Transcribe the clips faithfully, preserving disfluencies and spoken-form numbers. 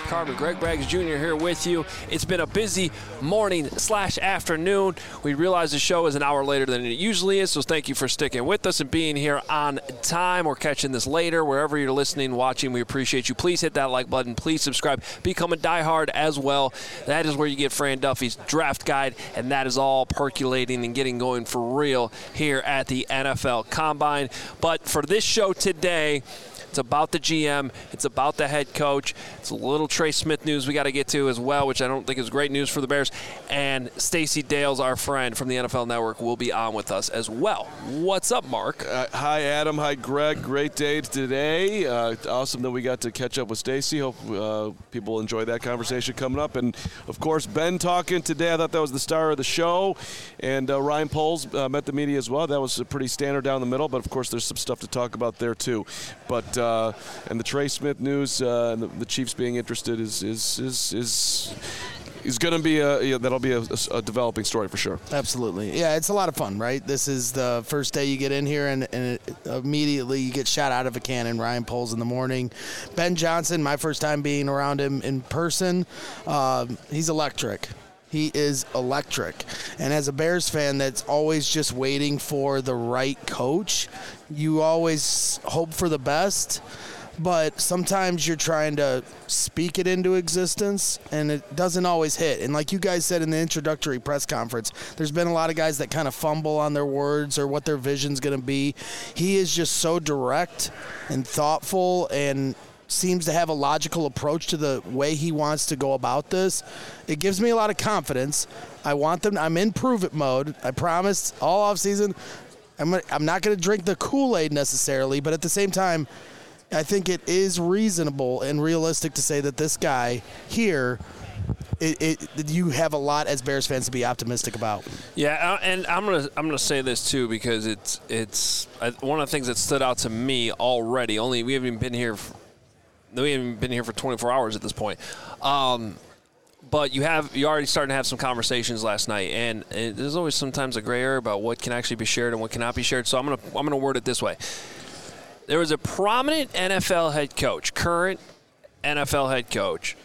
Mark Carman, Greg Braggs Junior here with you. It's been a busy morning slash afternoon. We realize the show is an hour later than it usually is, so thank you for sticking with us and being here on time or catching this later. Wherever you're listening, watching, we appreciate you. Please hit that like button. Please subscribe. Become a diehard as well. That is where you get Fran Duffy's draft guide, and that is all percolating and getting going for real here at the N F L Combine. But for this show today, it's about the G M. It's about the head coach. It's a little Trey Smith news we got to get to as well, which I don't think is great news for the Bears. And Stacey Dales, our friend from the N F L Network, will be on with us as well. What's up, Mark? Uh, hi, Adam. Hi, Greg. Great day today. Uh, awesome that we got to catch up with Stacey. Hope uh, people enjoy that conversation coming up. And, of course, Ben talking today. I thought that was the star of the show. And uh, Ryan Poles uh, met the media as well. That was pretty standard down the middle. But, of course, there's some stuff to talk about there, too. But Uh, and the Trey Smith news, uh, and the, the Chiefs being interested is is is is, is going to be a yeah, that'll be a, a, a developing story for sure. Absolutely, yeah, it's a lot of fun, right? This is the first day you get in here, and, and it, immediately you get shot out of a cannon. Ryan Poles in the morning, Ben Johnson, my first time being around him in person. Uh, he's electric. He is electric. And as a Bears fan that's always just waiting for the right coach, you always hope for the best, but sometimes you're trying to speak it into existence, and it doesn't always hit. And like you guys said in the introductory press conference, there's been a lot of guys that kind of fumble on their words or what their vision's going to be. He is just so direct and thoughtful and seems to have a logical approach to the way he wants to go about this. It gives me a lot of confidence. I want them. I'm in prove-it mode. I promised all offseason I'm gonna, I'm not going to drink the Kool-Aid necessarily, but at the same time, I think it is reasonable and realistic to say that this guy here, it, it, you have a lot as Bears fans to be optimistic about. Yeah, and I'm gonna I'm gonna say this too because it's it's one of the things that stood out to me already. Only we haven't been here. For, We haven't been here for twenty-four hours at this point. Um, but you have you already starting to have some conversations last night, and, and there's always sometimes a gray area about what can actually be shared and what cannot be shared. So I'm gonna I'm gonna word it this way. There was a prominent N F L head coach, current N F L head coach,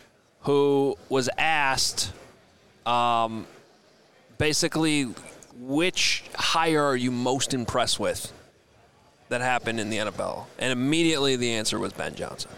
who was asked um, basically which hire are you most impressed with that happened in the N F L, and immediately the answer was Ben Johnson.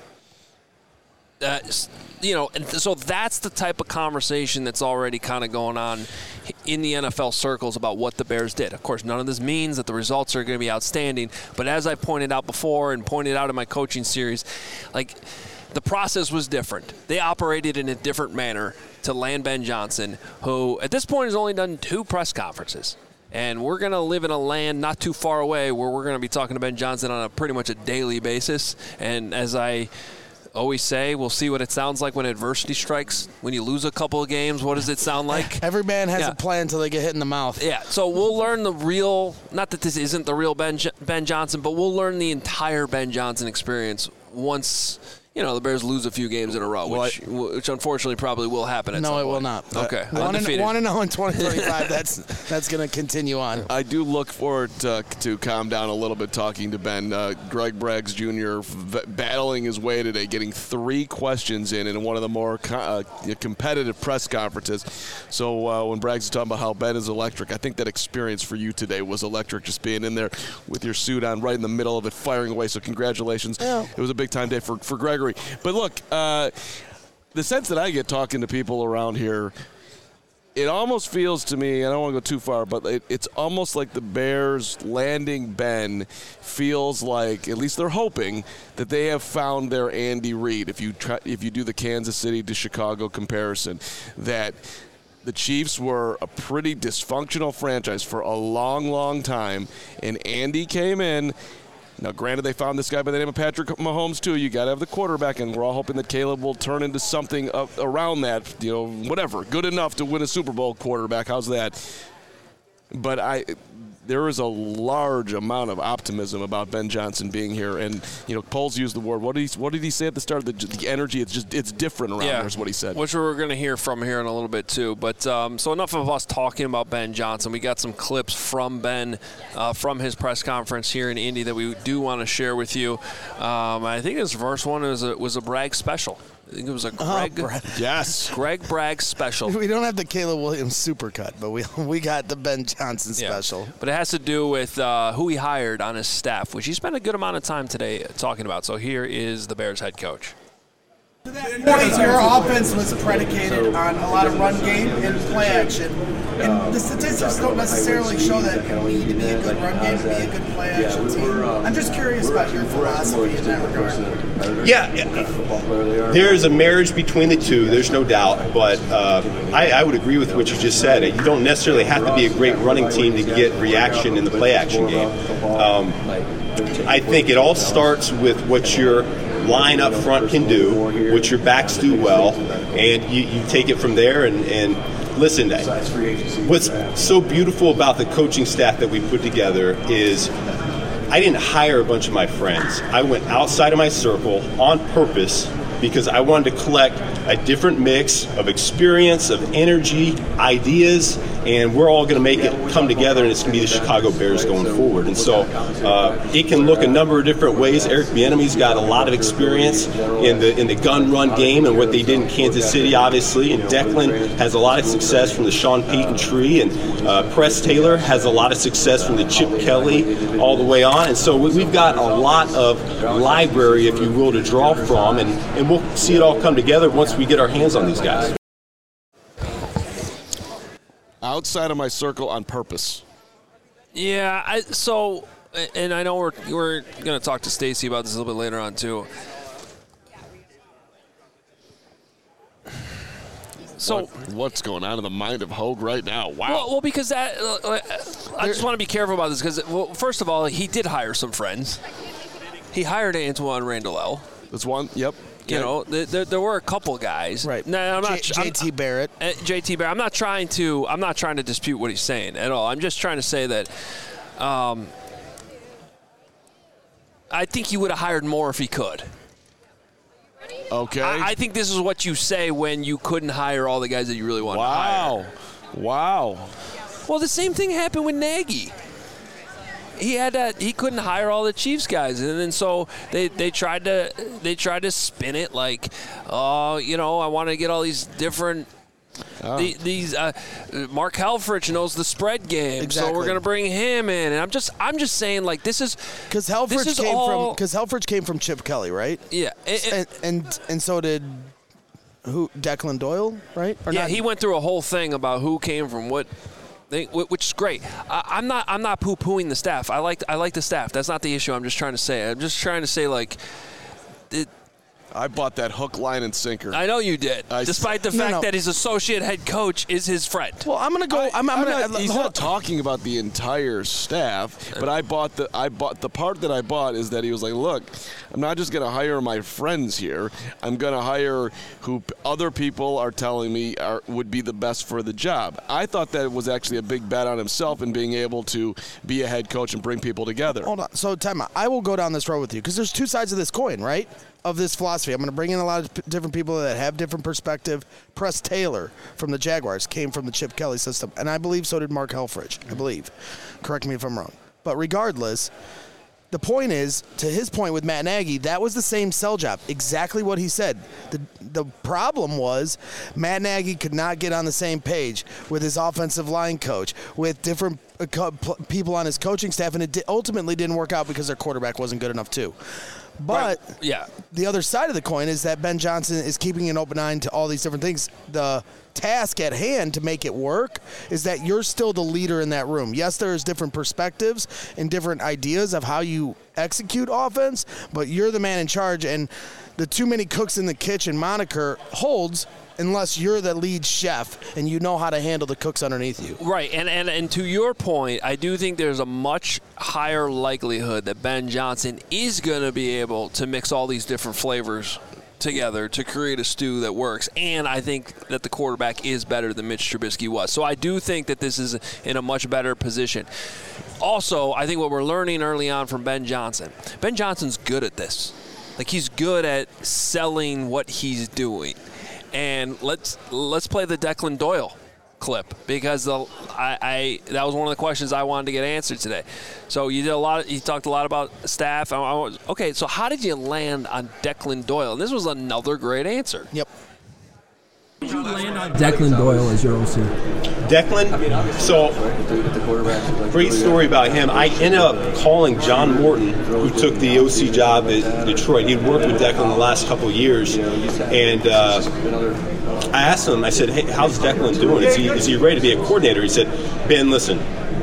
Uh, you know, and so that's the type of conversation that's already kind of going on in the N F L circles about what the Bears did. Of course, none of this means that the results are going to be outstanding, but as I pointed out before and pointed out in my coaching series, like the process was different. They operated in a different manner to land Ben Johnson, who at this point has only done two press conferences. And we're going to live in a land not too far away where we're going to be talking to Ben Johnson on a pretty much a daily basis. And as I always say, we'll see what it sounds like when adversity strikes. When you lose a couple of games, what does it sound like? Every man has yeah. a plan until they get hit in the mouth. Yeah, so we'll learn the real, not that this isn't the real Ben, Ben Johnson, but we'll learn the entire Ben Johnson experience once, you know, the Bears lose a few games in a row, which, well, which unfortunately probably will happen at no, some point. No, it will not. Okay. Uh, one, and, one and oh in twenty twenty-five, that's that's going to continue on. I do look forward to, to calm down a little bit talking to Ben. Uh, Greg Braggs Junior v- battling his way today, getting three questions in in one of the more co- uh, competitive press conferences. So uh, when Braggs is talking about how Ben is electric, I think that experience for you today was electric, just being in there with your suit on right in the middle of it, firing away. So congratulations. Yeah. It was a big-time day for, for Gregory. But look, uh, the sense that I get talking to people around here, it almost feels to me, I don't want to go too far, but it, it's almost like the Bears landing Ben feels like, at least they're hoping, that they have found their Andy Reid. If you try, if you do the Kansas City to Chicago comparison, that the Chiefs were a pretty dysfunctional franchise for a long, long time, and Andy came in. Now, granted, they found this guy by the name of Patrick Mahomes, too. You got to have the quarterback, and we're all hoping that Caleb will turn into something up around that, you know, whatever, good enough to win a Super Bowl quarterback. How's that? But I, there is a large amount of optimism about Ben Johnson being here, and you know, Poles used the word. What did he? What did he say at the start? The, the energy. It's just it's different around yeah, here, is what he said. Which we're going to hear from here in a little bit too. But um, so enough of us talking about Ben Johnson. We got some clips from Ben uh, from his press conference here in Indy that we do want to share with you. Um, I think his first one was a, was a Bragg special. I think it was a Greg. Oh, Brad. Yes. Greg Bragg special. We don't have the Caleb Williams supercut, but we we got the Ben Johnson special. Yeah. But it has to do with uh, who he hired on his staff, which he spent a good amount of time today talking about. So here is the Bears head coach. Point, your offense was predicated on a lot of run game and play action. And the statistics don't necessarily show that you need to be a good run game to be a good play action team. I'm just curious about your philosophy in that regard. Yeah, there's a marriage between the two, there's no doubt. But uh, I, I would agree with what you just said. You don't necessarily have to be a great running team to get reaction in the play action game. Um, I think it all starts with what your line up front can do, what your backs do well, and you, you take it from there. And, and listen, what's so beautiful about the coaching staff that we put together is I didn't hire a bunch of my friends. I went outside of my circle on purpose because I wanted to collect a different mix of experience, of energy, ideas, and we're all going to make it come together, and it's going to be the Chicago Bears going forward. And so uh, it can look a number of different ways. Eric Bieniemy's got a lot of experience in the in the gun run game and what they did in Kansas City, obviously. And Declan has a lot of success from the Sean Payton tree, and uh, Press Taylor has a lot of success from the Chip Kelly all the way on. And so we've got a lot of library, if you will, to draw from, and, and we'll see it all come together once we get our hands on these guys. Outside of my circle on purpose. Yeah, I, so, and I know we're we're going to talk to Stacy about this a little bit later on too. So what, what's going on in the mind of Hogue right now? Wow. Well, well because that uh, I just want to be careful about this because, well, first of all, he did hire some friends. He hired Antoine Randall. That's one. Yep. You know, there, there were a couple guys. Right. No, I'm not. J T Barrett. Uh, J T Barrett. I'm not trying to. I'm not trying to dispute what he's saying at all. I'm just trying to say that. Um, I think he would have hired more if he could. Okay. I, I think this is what you say when you couldn't hire all the guys that you really wanted wow. to hire. Wow. Well, the same thing happened with Nagy. He had to, he couldn't hire all the Chiefs guys, and then so they, they tried to they tried to spin it like, oh, you know, I want to get all these different. Oh. The, these uh, Mark Helfrich knows the spread game, exactly. So we're gonna bring him in. And I'm just I'm just saying like this is because Helfrich this is came all, from because Helfrich came from Chip Kelly, right? Yeah, it, and, and and so did who Declan Doyle, right? Or yeah, not? He went through a whole thing about who came from what. They, which is great. I, I'm not. I'm not poo-pooing the staff. I like. I like the staff. That's not the issue. I'm just trying to say. I'm just trying to say like. It, I bought that hook, line, and sinker. I know you did, I despite the no, fact no. that his associate head coach is his friend. Well, I'm gonna go. I, I'm, I'm, I'm gonna. not, he's not talking about the entire staff, but I bought the. I bought the part that I bought is that he was like, look, I'm not just gonna hire my friends here. I'm gonna hire who other people are telling me are would be the best for the job. I thought that was actually a big bet on himself and being able to be a head coach and bring people together. Hold on. So, time out. I will go down this road with you because there's two sides of this coin, right? Of this philosophy. I'm going to bring in a lot of p- different people that have different perspective. Press Taylor from the Jaguars came from the Chip Kelly system, and I believe so did Mark Helfrich. I believe. Correct me if I'm wrong. But regardless, the point is, to his point with Matt Nagy, that was the same sell job. Exactly what he said. The the problem was Matt Nagy could not get on the same page with his offensive line coach, with different uh, co- p- people on his coaching staff, and it di- ultimately didn't work out because their quarterback wasn't good enough too. But right. yeah. the other side of the coin is that Ben Johnson is keeping an open eye to all these different things. The task at hand to make it work is that you're still the leader in that room. Yes, there's different perspectives and different ideas of how you execute offense, but you're the man in charge, and the too many cooks in the kitchen moniker holds unless you're the lead chef and you know how to handle the cooks underneath you. Right, and, and, and to your point, I do think there's a much higher likelihood that Ben Johnson is going to be able to mix all these different flavors together to create a stew that works, and I think that the quarterback is better than Mitch Trubisky was. So I do think that this is in a much better position. Also, I think what we're learning early on from Ben Johnson, Ben Johnson's good at this. Like, he's good at selling what he's doing. And let's let's play the Declan Doyle clip because the I, I that was one of the questions I wanted to get answered today. So you did a lot. Of, you talked a lot about staff. I, I was, okay, so how did you land on Declan Doyle? And this was another great answer. Yep. Did you land on Declan Doyle as your O C? Declan, so great story about him. I ended up calling John Morton, who took the O C job at Detroit. He'd worked with Declan the last couple of years, and uh, I asked him, I said, hey, how's Declan doing? Is he, is he ready to be a coordinator? He said, Ben, listen,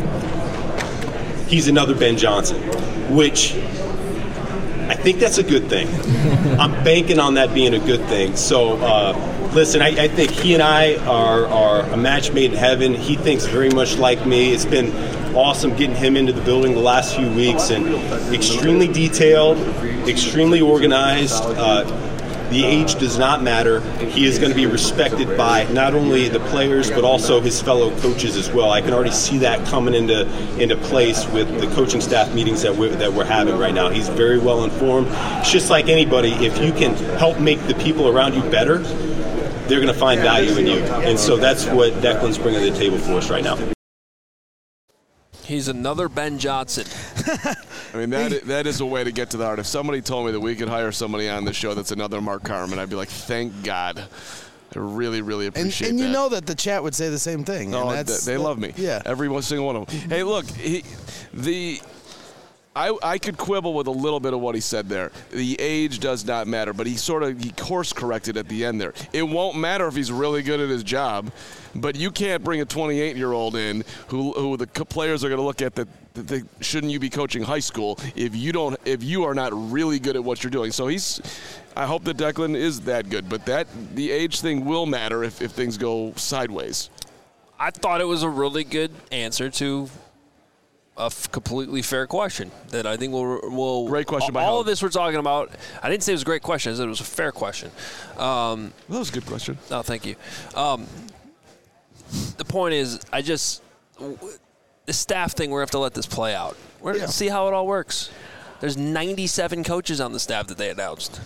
he's another Ben Johnson, which I think that's a good thing. I'm banking on that being a good thing. So, uh, listen, I, I think he and I are, are a match made in heaven. He thinks very much like me. It's been awesome getting him into the building the last few weeks, and extremely detailed, extremely organized. Uh, the age does not matter. He is going to be respected by not only the players but also his fellow coaches as well. I can already see that coming into into place with the coaching staff meetings that we're, that we're having right now. He's very well informed. It's just like anybody, if you can help make the people around you better, they're going to find value in you. And so that's what Declan's bringing to the table for us right now. He's another Ben Johnson. I mean, that is, that is a way to get to the heart. If somebody told me that we could hire somebody on the show that's another Mark Carman, I'd be like, thank God. I really, really appreciate and, and that. you know that the chat would say the same thing. Oh, and that's, they that, love me. Yeah. Every single one of them. Hey, look, he, the... I, I could quibble with a little bit of what he said there. The age does not matter, but he sort of he course corrected at the end there. It won't matter if he's really good at his job, but you can't bring a twenty-eight-year-old in who who the players are going to look at that, that they, shouldn't you be coaching high school if you don't if you are not really good at what you're doing. So he's I hope that Declan is that good, but that the age thing will matter if, if things go sideways. I thought it was a really good answer to a f- completely fair question that I think will will great question. All, by all of this we're talking about. I didn't say it was a great question. I said it was a fair question. Um, that was a good question. Oh, thank you. Um, the point is, I just the staff thing. We're gonna have to let this play out. We're gonna Yeah. see how it all works. There's ninety-seven coaches on the staff that they announced.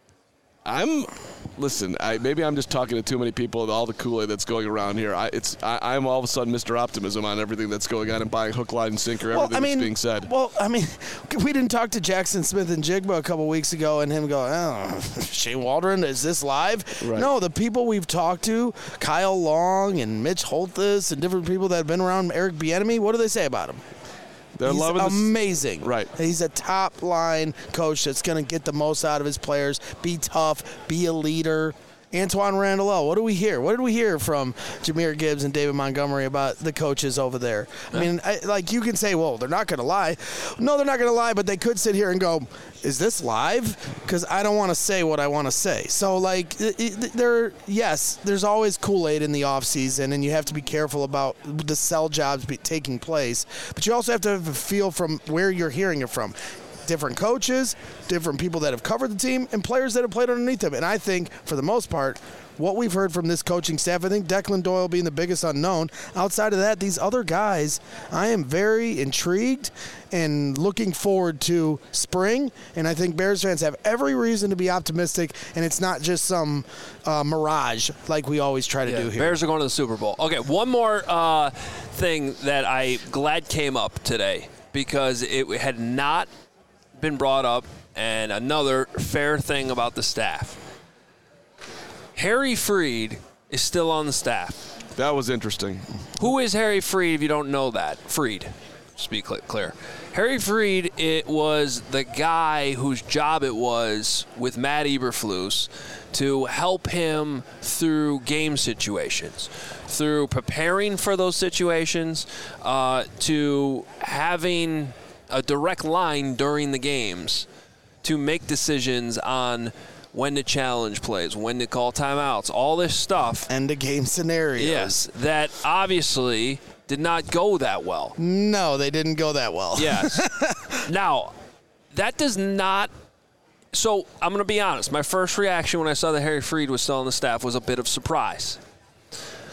I'm listen. I maybe I'm just talking to too many people. All the Kool-Aid that's going around here. I, it's I, I'm all of a sudden Mister Optimism on everything that's going on and buying hook, line, and sinker. Everything well, I mean, that's being said. Well, I mean, we didn't talk to Jackson Smith and Jigba a couple weeks ago, and him go, "Oh, Shane Waldron, is this live?" Right. No, the people we've talked to, Kyle Long and Mitch Holthus, and different people that have been around Eric Bieniemy. What do they say about him? They're He's loving this. amazing. Right. He's a top line coach that's going to get the most out of his players, be tough, be a leader. Antoine Randall, what do we hear? What did we hear from Jahmyr Gibbs and David Montgomery about the coaches over there? I mean, I, like you can say, well, they're not going to lie. No, they're not going to lie, but they could sit here and go, is this live? Because I don't want to say what I want to say. So, like, there, yes, there's always Kool-Aid in the offseason, and you have to be careful about the sell jobs be taking place. But you also have to have a feel from where you're hearing it from. Different coaches, different people that have covered the team, and players that have played underneath them. And I think, for the most part, what we've heard from this coaching staff, I think Declan Doyle being the biggest unknown. Outside of that, these other guys, I am very intrigued and looking forward to spring. And I think Bears fans have every reason to be optimistic, and it's not just some uh, mirage like we always try to Yeah, do here. Bears are going to the Super Bowl. Okay, one more uh, thing that I glad came up today because it had not – been brought up, and another fair thing about the staff. Harry Freed is still on the staff. That was interesting. Who is Harry Freed if you don't know that? Freed, just to be clear. Harry Freed, it was the guy whose job it was with Matt Eberflus to help him through game situations, through preparing for those situations, uh, to having a direct line during the games to make decisions on when to challenge plays, when to call timeouts, all this stuff. End of game scenarios. Yes, that obviously did not go that well. No, they didn't go that well. Yes. Now, that does not – so I'm going to be honest. My first reaction when I saw that Harry Freed was still on the staff was a bit of surprise.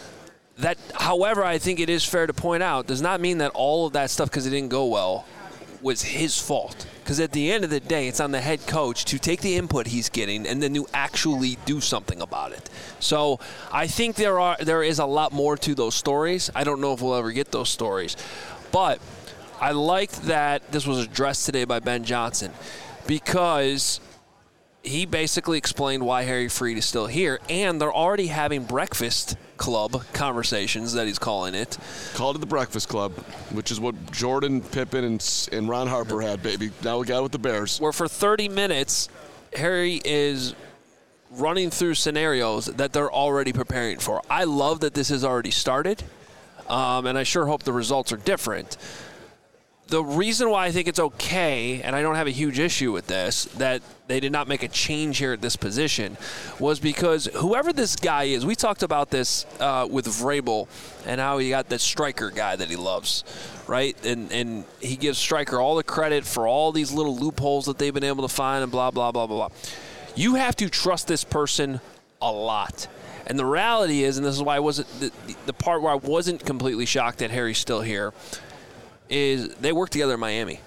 That, however, I think it is fair to point out, does not mean that all of that stuff, because it didn't go well, was his fault. Because at the end of the day, it's on the head coach to take the input he's getting and then to actually do something about it. So I think there are there is a lot more to those stories. I don't know if we'll ever get those stories. But I liked that this was addressed today by Ben Johnson because he basically explained why Harry Freed is still here, and they're already having breakfast club conversations that he's calling it. Called it the Breakfast Club, which is what Jordan, Pippen, and, and Ron Harper had, baby. Now we got it with the Bears. Where for thirty minutes, Harry is running through scenarios that they're already preparing for. I love that this has already started, um, and I sure hope the results are different. The reason why I think it's okay, and I don't have a huge issue with this, that they did not make a change here at this position, was because whoever this guy is, we talked about this uh, with Vrabel and how he got that striker guy that he loves, right? And and he gives Striker all the credit for all these little loopholes that they've been able to find and blah, blah, blah, blah, blah. You have to trust this person a lot. And the reality is, and this is why I wasn't, the, the part where I wasn't completely shocked that Harry's still here, is they work together in Miami.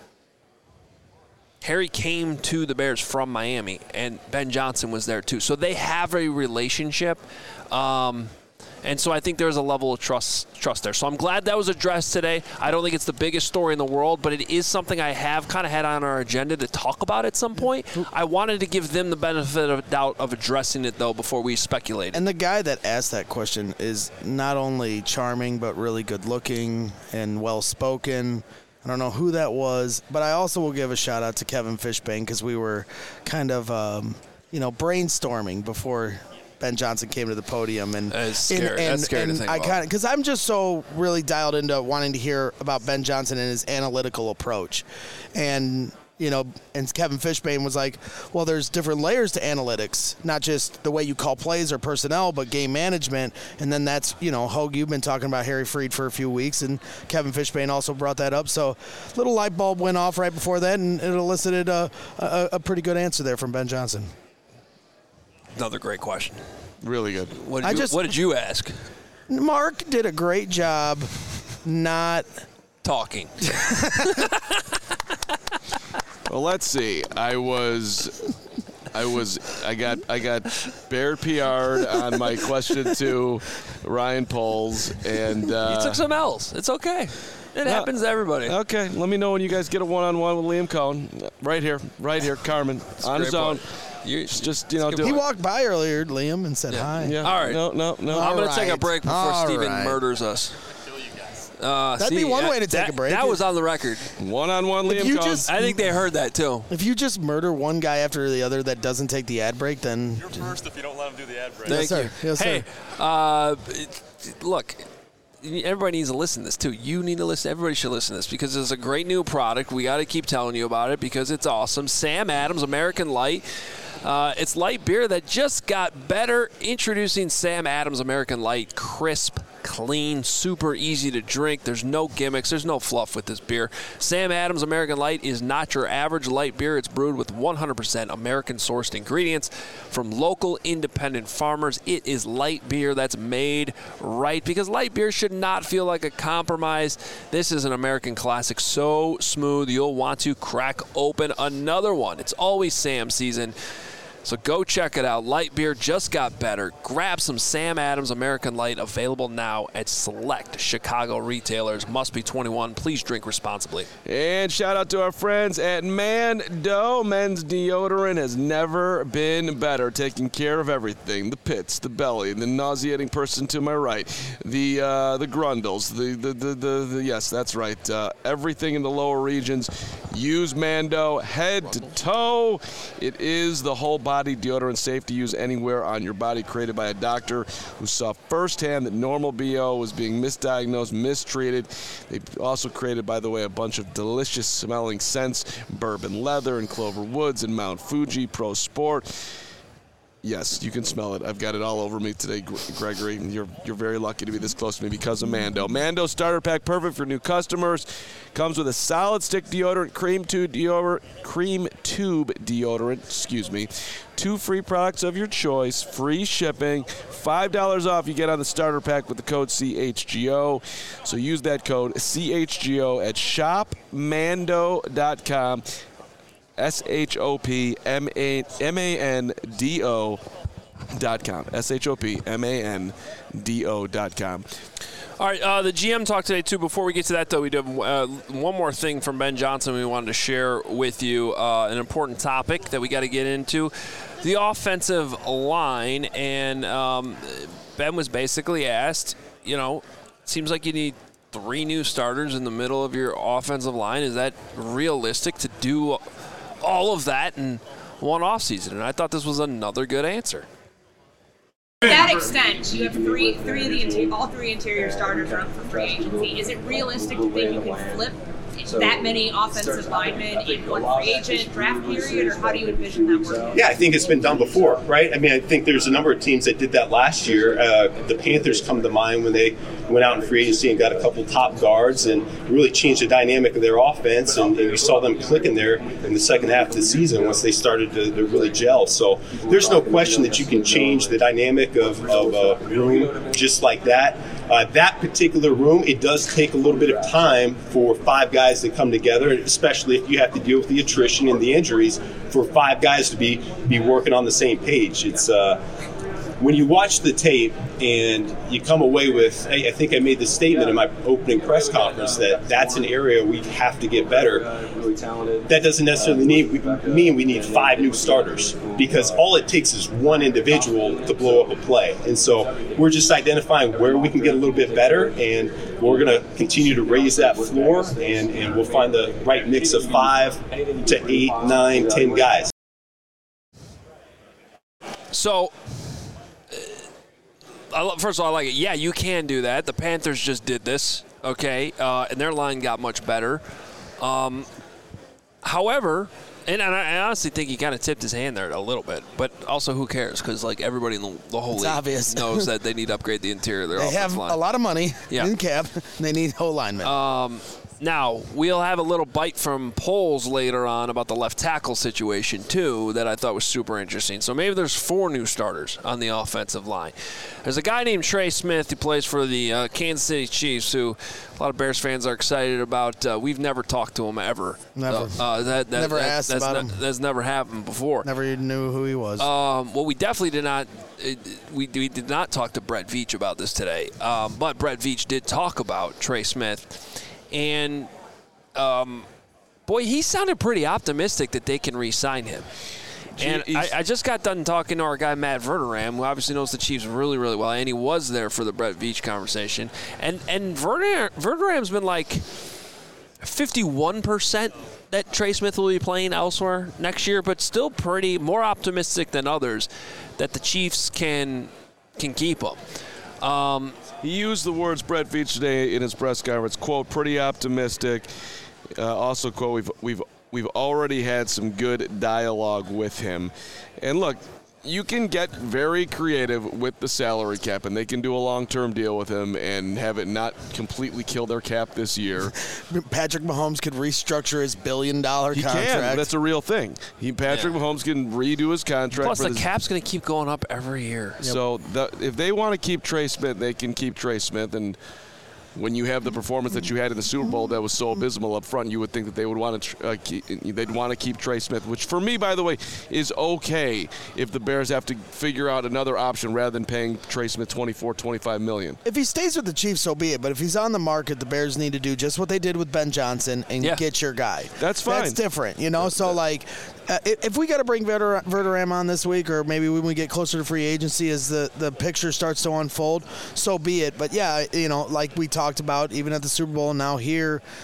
Harry came to the Bears from Miami, and Ben Johnson was there too. So they have a relationship, um, and so I think there's a level of trust trust there. So I'm glad that was addressed today. I don't think it's the biggest story in the world, but it is something I have kind of had on our agenda to talk about at some point. I wanted to give them the benefit of doubt of addressing it, though, before we speculate. And the guy that asked that question is not only charming, but really good-looking and well-spoken. I don't know who that was, but I also will give a shout-out to Kevin Fishbane because we were kind of, um, you know, brainstorming before Ben Johnson came to the podium, and That's scary. and, and, That's scary and to think I about. kind of because I'm just so really dialed into wanting to hear about Ben Johnson and his analytical approach, and you know, and Kevin Fishbane was like, well, there's different layers to analytics, not just the way you call plays or personnel, but game management, and then that's you know, Hogue, you've been talking about Harry Freed for a few weeks, and Kevin Fishbane also brought that up, so little light bulb went off right before that, and it elicited a, a, a pretty good answer there from Ben Johnson. Another great question. Really good. What did, I you, just- what did you ask? Mark did a great job not Talking. Well, let's see. I was, I was, I got, I got Bear P R'd on my question to Ryan Poles, and uh, You took some L's. It's okay. It happens to everybody. Okay, let me know when you guys get a one-on-one with Liam Cohn. Right here, right here, Carmen, on his great own. point. You- Just, you know, It's a do good He it. walked by earlier, Liam, and said hi. Yeah. All right. No, no, no. I'm All going to take a right. break before All Steven right. murders us. Uh, That'd see, be one that- way to take that- a break. That was on the record. One-on-one Liam you Cohn. just- I think they heard that, too. If you just murder one guy after the other that doesn't take the ad break, then You're first if you don't let him do the ad break. Thank sir. you. Yes, hey, sir. uh, it- look, everybody needs to listen to this, too. You need to listen. Everybody should listen to this because it's a great new product. We got to keep telling you about it because it's awesome. Sam Adams American Light. Uh, it's light beer that just got better. Introducing Sam Adams American Light. Crisp, clean, super easy to drink. There's no gimmicks. There's no fluff with this beer. Sam Adams American Light is not your average light beer. It's brewed with one hundred percent American-sourced ingredients from local independent farmers. It is light beer that's made right because light beer should not feel like a compromise. This is an American classic, so smooth you'll want to crack open another one. It's always Sam season. So go check it out. Light beer just got better. Grab some Sam Adams American Light, available now at select Chicago retailers. Must be twenty-one. Please drink responsibly. And shout out to our friends at Mando. Men's deodorant has never been better, taking care of everything: the pits, the belly, the nauseating person to my right, the uh, the grundles, the the, the the the yes, that's right, uh, everything in the lower regions. Use Mando, head to toe. It is the whole body deodorant, safe to use anywhere on your body, created by a doctor who saw firsthand that normal B O was being misdiagnosed, mistreated. They also created, by the way, a bunch of delicious smelling scents: bourbon leather and clover woods and Mount Fuji Pro Sport. Yes, you can smell it. I've got it all over me today, Gregory. You're you're very lucky to be this close to me because of Mando. Mando starter pack, perfect for new customers. Comes with a solid stick deodorant, cream tube deodorant, cream tube deodorant. Excuse me. Two free products of your choice, free shipping, five dollars off. You get on the starter pack with the code C H G O. So use that code C H G O at shop mando dot com. S H O P M A N D O dot com. S H O P M A N D O dot com. All right, uh, the G M talked today, too. Before we get to that, though, we do have uh, one more thing from Ben Johnson we wanted to share with you, uh, an important topic that we got to get into, the offensive line. And um, Ben was basically asked, you know, seems like you need three new starters in the middle of your offensive line. Is that realistic to do all of that in one offseason? And I thought this was another good answer. To that extent, you have three, three of the interior, all three interior starters are up for free agency. Is it realistic to think you can flip that many offensive linemen in one free agent draft period, or how do you envision that working? Yeah, I think it's been done before, right? I mean, I think there's a number of teams that did that last year. Uh, the Panthers come to mind when they went out in free agency and got a couple top guards and really changed the dynamic of their offense, and, and we saw them clicking there in the second half of the season once they started to, to really gel. So there's no question that you can change the dynamic of, of a room just like that. Uh, that particular room, it does take a little bit of time for five guys to come together, especially if you have to deal with the attrition and the injuries, for five guys to be, be working on the same page. It's uh, when you watch the tape and you come away with, I, I think I made the statement in my opening press conference that that's an area we have to get better. That doesn't necessarily need, mean we need five new starters, because all it takes is one individual to blow up a play. And so we're just identifying where we can get a little bit better, and we're going to continue to raise that floor, and, and we'll find the right mix of five to eight, nine, ten guys. So, uh, first of all, I like it. Yeah, you can do that. The Panthers just did this, okay, uh, and their line got much better. Um, however, and, and I honestly think he kind of tipped his hand there a little bit, but also who cares? Because like everybody in the, the whole It's league obvious. knows that they need to upgrade the interior of their They offensive have line. a lot of money Yeah. in cap. And they need whole linemen. Um, now, we'll have a little bite from Poles later on about the left tackle situation, too, that I thought was super interesting. So maybe there's four new starters on the offensive line. There's a guy named Trey Smith who plays for the uh, Kansas City Chiefs, who a lot of Bears fans are excited about. Uh, we've never talked to him ever. Never. Uh, uh, that, that, Never that, asked that's about ne- him. That's never happened before. Never even knew who he was. Um, well, we definitely did not. It, we, we did not talk to Brett Veach about this today, um, but Brett Veach did talk about Trey Smith, and um, boy, he sounded pretty optimistic that they can re-sign him. And I, I just got done talking to our guy Matt Verderam, who obviously knows the Chiefs really, really well, and he was there for the Brett Veach conversation. And and Verderam, Verderam's been like fifty-one percent that Trey Smith will be playing elsewhere next year, but still pretty more optimistic than others that the Chiefs can can keep him. Um, He used the words, Brett Veach, today in his press conference, quote, pretty optimistic. Uh, also, quote, we've, we've, we've already had some good dialogue with him. And look, you can get very creative with the salary cap, and they can do a long-term deal with him and have it not completely kill their cap this year. Patrick Mahomes could restructure his billion-dollar He contract. can. That's a real thing. He, Patrick Yeah. Mahomes can redo his contract. plus, for the this- cap's going to keep going up every year. So the, if they want to keep Trey Smith, they can keep Trey Smith. And when you have the performance that you had in the Super Bowl that was so abysmal up front, you would think that they would want to uh, keep, they'd want to keep Trey Smith, which for me, by the way, is okay if the Bears have to figure out another option rather than paying Trey Smith twenty-four, twenty-five million. If he stays with the Chiefs, so be it. But if he's on the market, the Bears need to do just what they did with Ben Johnson and Yeah. get your guy. That's fine. That's different, you know. So like, uh, if if we got to bring Verder- Verderam on this week, or maybe when we get closer to free agency, as the the picture starts to unfold, so be it. But yeah, you know, like we talked about, even at the Super Bowl, and now here.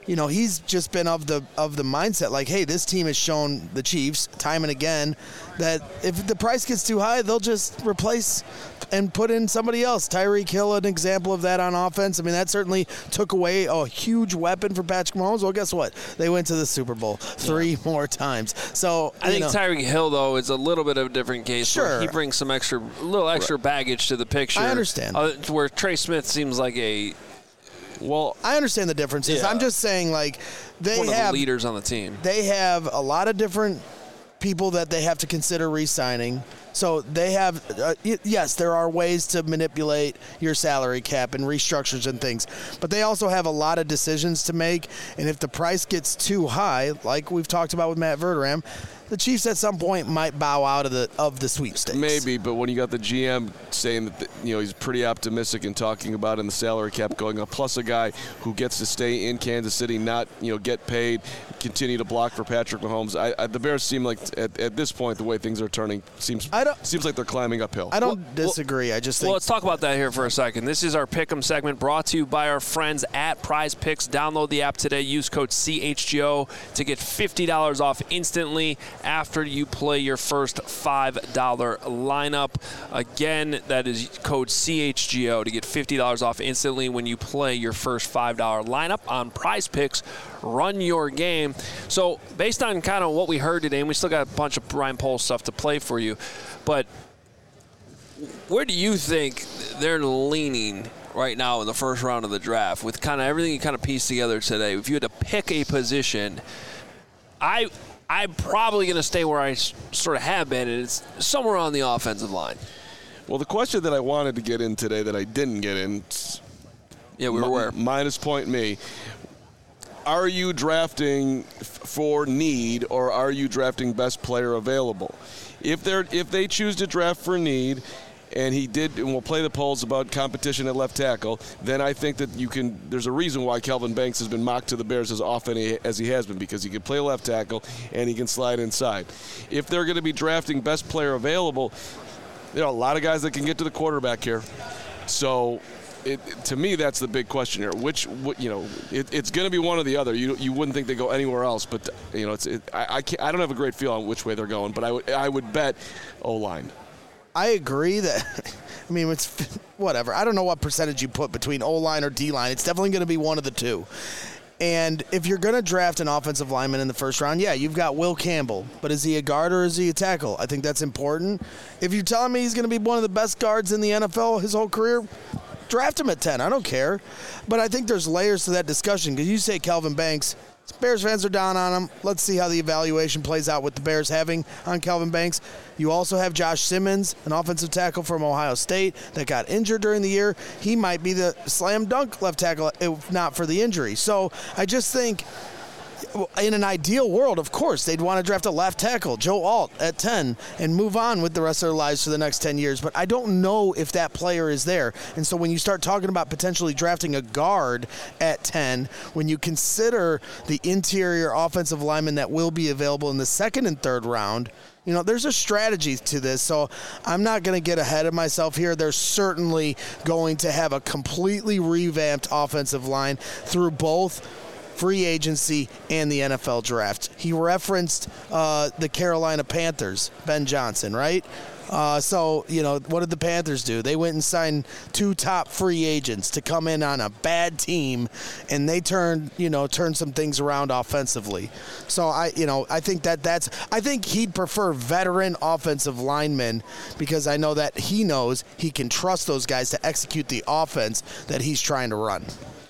you know, he's just been of the of the mindset like, hey, this team has shown the Chiefs time and again that if the price gets too high, they'll just replace and put in somebody else. Tyreek Hill, an example of that on offense. I mean, that certainly took away a huge weapon for Patrick Mahomes. Well, guess what? They went to the Super Bowl three yeah. more times. So I think know. Tyreek Hill, though, is a little bit of a different case. Sure. He brings some extra, little extra right. baggage to the picture. I understand. Uh, where Trey Smith seems like a Well, I understand the differences. Yeah. I'm just saying, like, they one have of the leaders on the team. They have a lot of different people that they have to consider re-signing. So they have, uh, yes, there are ways to manipulate your salary cap and restructures and things, but they also have a lot of decisions to make. And if the price gets too high, like we've talked about with Matt Verderam, the Chiefs at some point might bow out of the of the sweepstakes. Maybe, but when you got the G M saying that the, you know he's pretty optimistic and talking about in the salary cap going up, plus a guy who gets to stay in Kansas City, not you know get paid, continue to block for Patrick Mahomes. I, I, the Bears seem like at, at this point the way things are turning seems I don't, seems like they're climbing uphill. I don't well, disagree. I just think. Well, let's talk about that here for a second. This is our Pick'em segment brought to you by our friends at Prize Picks. Download the app today. Use code C H G O to get fifty dollars off instantly after you play your first five dollar lineup. Again, that is code C H G O to get fifty dollars off instantly when you play your first five dollar lineup on Prize Picks. Run your game. So based on kind of what we heard today, and we still got a bunch of Ryan Poles stuff to play for you, but where do you think they're leaning right now in the first round of the draft with kind of everything you kind of pieced together today? If you had to pick a position, I I'm probably going to stay where I sort of have been, and it's somewhere on the offensive line. Well, the question that I wanted to get in today that I didn't get in, yeah, we were aware. Minus point me. Are you drafting f- for need, or are you drafting best player available? If they're if they choose to draft for need, and he did, and we'll play the polls about competition at left tackle, then I think that you can, there's a reason why Kelvin Banks has been mocked to the Bears as often as he has been, because he can play left tackle and he can slide inside. If they're going to be drafting best player available, there are a lot of guys that can get to the quarterback here. So it, to me, that's the big question here. Which, you know, it, it's going to be one or the other. You you wouldn't think they go anywhere else, but, you know, it's it, I I, can't, I don't have a great feel on which way they're going, but I would I would bet O-line. I agree that, I mean, it's whatever. I don't know what percentage you put between O-line or D-line. It's definitely going to be one of the two. And if you're going to draft an offensive lineman in the first round, yeah, you've got Will Campbell. But is he a guard or is he a tackle? I think that's important. If you're telling me he's going to be one of the best guards in the N F L his whole career, draft him at ten. I don't care. But I think there's layers to that discussion, because you say Kelvin Banks, Bears fans are down on him. Let's see how the evaluation plays out with the Bears having on Kelvin Banks. You also have Josh Simmons, an offensive tackle from Ohio State that got injured during the year. He might be the slam dunk left tackle if not for the injury. So I just think in an ideal world, of course, they'd want to draft a left tackle, Joe Alt, at ten, and move on with the rest of their lives for the next ten years. But I don't know if that player is there. And so when you start talking about potentially drafting a guard at ten, when you consider the interior offensive lineman that will be available in the second and third round, you know, there's a strategy to this. So I'm not going to get ahead of myself here. They're certainly going to have a completely revamped offensive line through both free agency and the N F L draft. He referenced uh, the Carolina Panthers, Ben Johnson, right? Uh, so, you know, what did the Panthers do? They went and signed two top free agents to come in on a bad team, and they turned, you know, turned some things around offensively. So, I, you know, I think that that's – I think he'd prefer veteran offensive linemen, because I know that he knows he can trust those guys to execute the offense that he's trying to run.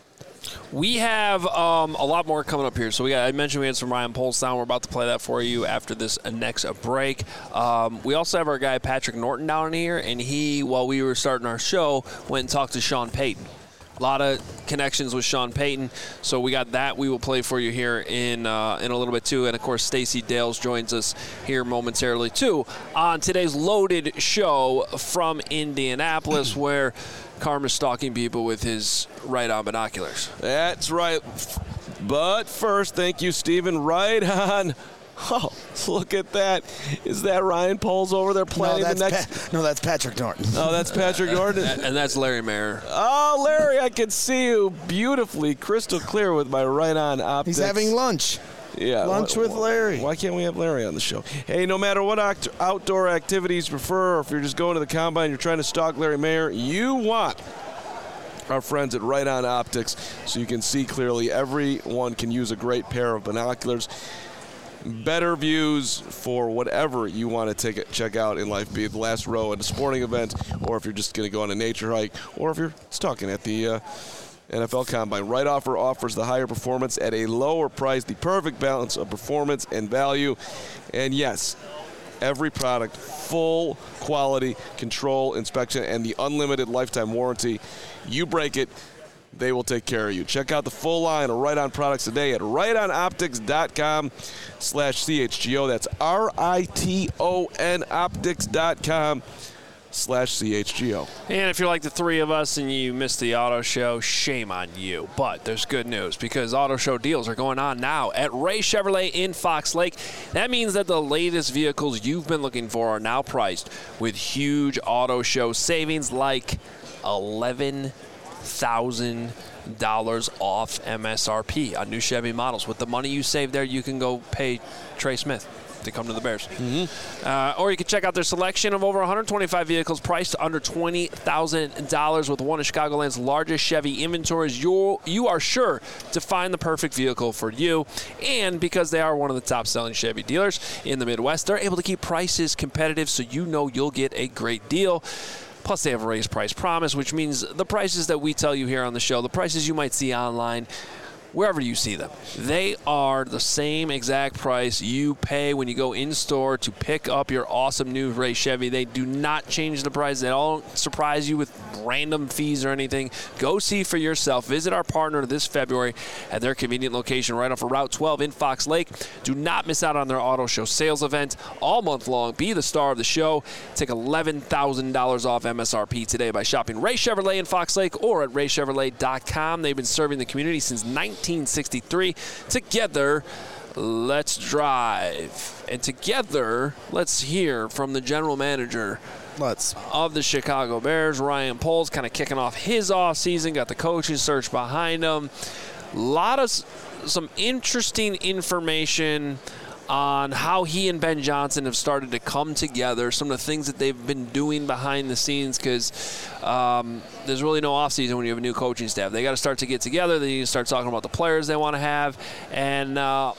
We have um, a lot more coming up here. So we got, I mentioned we had some Ryan Poles down. We're about to play that for you after this next break. Um, we also have our guy Patrick Norton down here, and he, while we were starting our show, went and talked to Sean Payton. A lot of connections with Sean Payton, so we got that. We will play for you here in uh, in a little bit too, and of course Stacey Dales joins us here momentarily too on today's loaded show from Indianapolis, where Carm is stalking people with his right-on binoculars. That's right. But first, thank you, Stephen. Right on. Oh, look at that. Is that Ryan Poles over there planning no, the next? Pa- no, that's Patrick Norton. Oh, that's Patrick Norton. And that's Larry Mayer. Oh, Larry, I can see you beautifully, crystal clear with my right on optics. He's having lunch. Yeah, lunch why, with Larry. Why can't we have Larry on the show? Hey, no matter what act- outdoor activities you prefer, or if you're just going to the combine, you're trying to stalk Larry Mayer, you want our friends at Right On Optics so you can see clearly. Everyone can use a great pair of binoculars. Better views for whatever you want to take it, check out in life, be it the last row at a sporting event, or if you're just going to go on a nature hike, or if you're stalking at the uh, N F L Combine. Right Offer offers the higher performance at a lower price, the perfect balance of performance and value. And yes, every product, full quality control, inspection, and the unlimited lifetime warranty. You break it, they will take care of you. Check out the full line of Right On products today at right on optics dot com slash C H G O. That's R I T O N optics dot com slash C H G O. And if you're like the three of us and you missed the auto show, shame on you. But there's good news because auto show deals are going on now at Ray Chevrolet in Fox Lake. That means that the latest vehicles you've been looking for are now priced with huge auto show savings like eleven thousand dollars off M S R P on new Chevy models. With the money you save there, you can go pay Trey Smith to come to the Bears. Mm-hmm. Uh, or you can check out their selection of over one hundred twenty-five vehicles priced under twenty thousand dollars. With one of Chicagoland's largest Chevy inventories, you you are sure to find the perfect vehicle for you. And because they are one of the top-selling Chevy dealers in the Midwest, they're able to keep prices competitive so you know you'll get a great deal. Plus, they have a raised price promise, which means the prices that we tell you here on the show, the prices you might see online, wherever you see them, they are the same exact price you pay when you go in-store to pick up your awesome new Ray Chevy. They do not change the price. They don't surprise you with random fees or anything. Go see for yourself. Visit our partner this February at their convenient location right off of Route twelve in Fox Lake. Do not miss out on their auto show sales event all month long. Be the star of the show. Take eleven thousand dollars off M S R P today by shopping Ray Chevrolet in Fox Lake or at ray chevrolet dot com. They've been serving the community since nineteen sixty-three. Together, let's drive. And together, let's hear from the general manager Let's. of the Chicago Bears, Ryan Poles, kind of kicking off his offseason, got the coaching search behind him. A lot of s- some interesting information on how he and Ben Johnson have started to come together, some of the things that they've been doing behind the scenes, because um, there's really no offseason when you have a new coaching staff. They got to start to get together. They need to start talking about the players they want to have. And uh,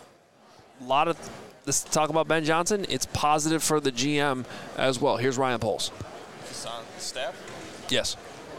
a lot of this talk about Ben Johnson, it's positive for the G M as well. Here's Ryan Poles. Is this on staff? Yes.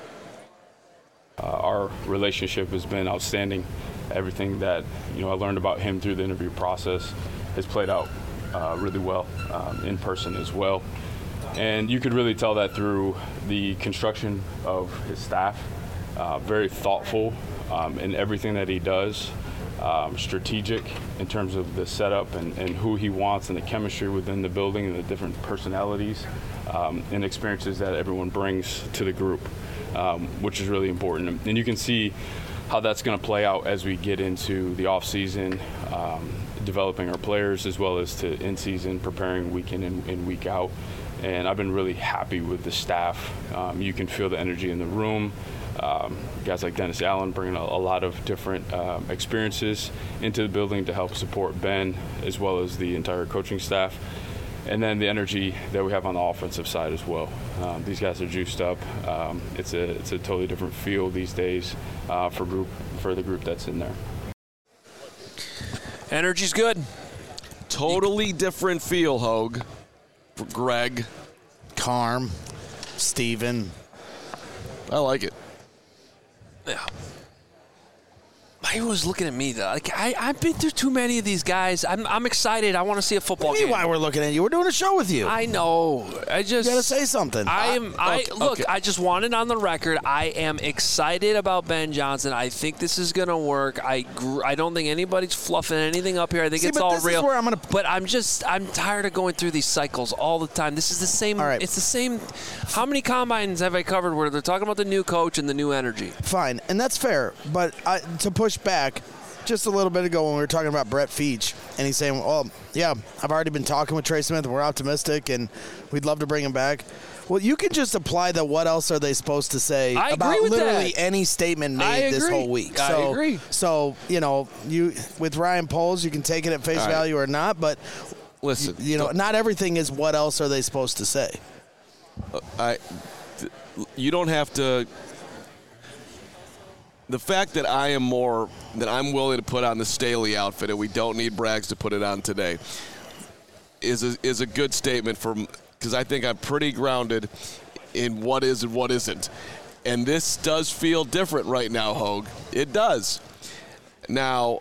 Uh, our relationship has been outstanding. Everything that you know I learned about him through the interview process has played out uh, really well um, in person as well. And you could really tell that through the construction of his staff. Uh, very thoughtful um, in everything that he does. Um, strategic in terms of the setup and, and who he wants and the chemistry within the building and the different personalities um, and experiences that everyone brings to the group, um, which is really important. And you can see how that's going to play out as we get into the off season, um, developing our players as well as to in season, preparing week in and, and week out. And I've been really happy with the staff. Um, you can feel the energy in the room. Um, guys like Dennis Allen bringing a, a lot of different uh, experiences into the building to help support Ben as well as the entire coaching staff. And then the energy that we have on the offensive side as well. Um, these guys are juiced up. Um, it's a it's a totally different feel these days uh, for group for the group that's in there. Energy's good. Totally different feel, Hogue. For Greg. Carm. Steven. I like it. Yeah. He was looking at me though. Like I, I've been through too many of these guys. I'm, I'm excited. I want to see a football What do you game. mean why we're looking at you? We're doing a show with you. I know. I just You gotta say something. I am. I okay, look. okay. I just wanted on the record. I am excited about Ben Johnson. I think this is gonna work. I. Gr- I don't think anybody's fluffing anything up here. I think See, it's but all this is real. where I'm gonna- But I'm just. I'm tired of going through these cycles all the time. This is the same. All right. It's the same. How many combines have I covered where they're talking about the new coach and the new energy? Fine, and that's fair. But I, to push back, just a little bit ago when we were talking about Brett Veach, and he's saying, well, yeah, I've already been talking with Trey Smith, and we're optimistic, and we'd love to bring him back. Well, you can just apply the what else are they supposed to say I about agree with literally that. any statement made this whole week. I so, agree. So, you know, you with Ryan Poles, you can take it at face All right. value or not, but Listen, you know, not everything is what else are they supposed to say. I, th- you don't have to. The fact that I am more, that I'm willing to put on the Staley outfit and we don't need Braggs to put it on today is a, is a good statement for, because I think I'm pretty grounded in what is and what isn't. And this does feel different right now, Hogue. It does. Now,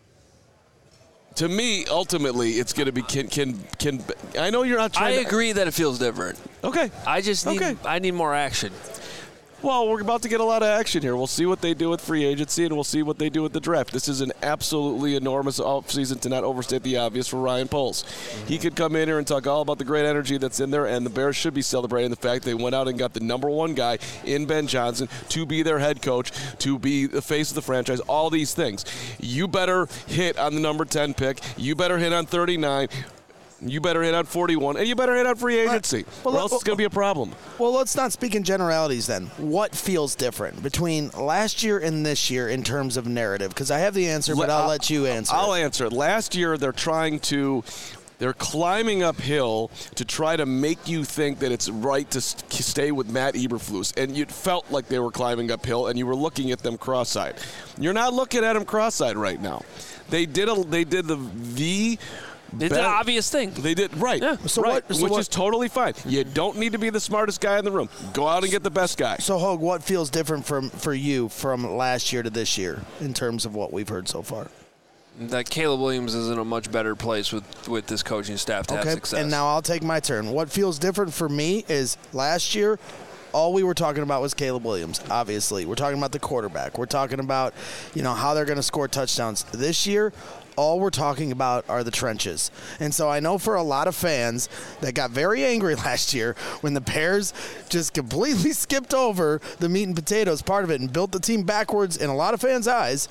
to me, ultimately, it's going to be can can can. I know you're not I trying. to, agree that it feels different. Okay. I just need Okay. I need more action. Well, we're about to get a lot of action here. We'll see what they do with free agency, and we'll see what they do with the draft. This is an absolutely enormous offseason, to not overstate the obvious, for Ryan Poles. Mm-hmm. He could come in here and talk all about the great energy that's in there, and the Bears should be celebrating the fact they went out and got the number one guy in Ben Johnson to be their head coach, to be the face of the franchise, all these things. You better hit on the number ten pick. You better hit on thirty-nine. You better hit on forty-one, and you better hit on free agency, Well, or else well, it's going to be a problem. Well, let's not speak in generalities then. What feels different between last year and this year in terms of narrative? Because I have the answer, but I'll, I'll let you answer. I'll it. answer it. Last year, they're trying to. They're climbing uphill to try to make you think that it's right to st- stay with Matt Eberflus, and you felt like they were climbing uphill, and you were looking at them cross-eyed. You're not looking at them cross-eyed right now. They did a. They did the the. It's an obvious thing. They did, right. Yeah. So right, what- so which what- is totally fine. You don't need to be the smartest guy in the room. Go out and get the best guy. So, Hogue, what feels different from for you from last year to this year in terms of what we've heard so far? That Caleb Williams is in a much better place with, with this coaching staff to have success. And now I'll take my turn. What feels different for me is last year, all we were talking about was Caleb Williams, obviously. We're talking about the quarterback. We're talking about, you know, how they're going to score touchdowns. This year, all we're talking about are the trenches. And so I know for a lot of fans that got very angry last year when the Bears just completely skipped over the meat and potatoes part of it and built the team backwards in a lot of fans' eyes,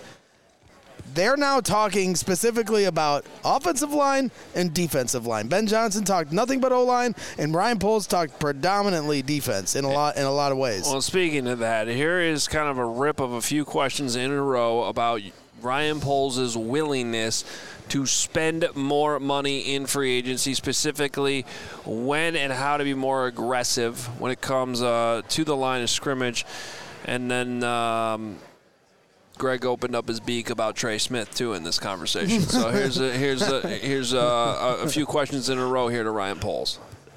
they're now talking specifically about offensive line and defensive line. Ben Johnson talked nothing but O-line, and Ryan Poles talked predominantly defense in a lot in a lot of ways. Well, speaking of that, here is kind of a rip of a few questions in a row about Ryan Poles' willingness to spend more money in free agency, specifically when and how to be more aggressive when it comes uh, to the line of scrimmage. And then um, Greg opened up his beak about Trey Smith too in this conversation. So here's a, here's a, here's a, a few questions in a row here to Ryan Poles.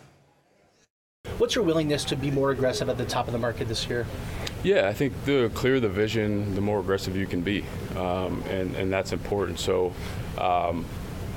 What's your willingness to be more aggressive at the top of the market this year? Yeah, I think the clearer the vision, the more aggressive you can be, um, and and that's important. So, um,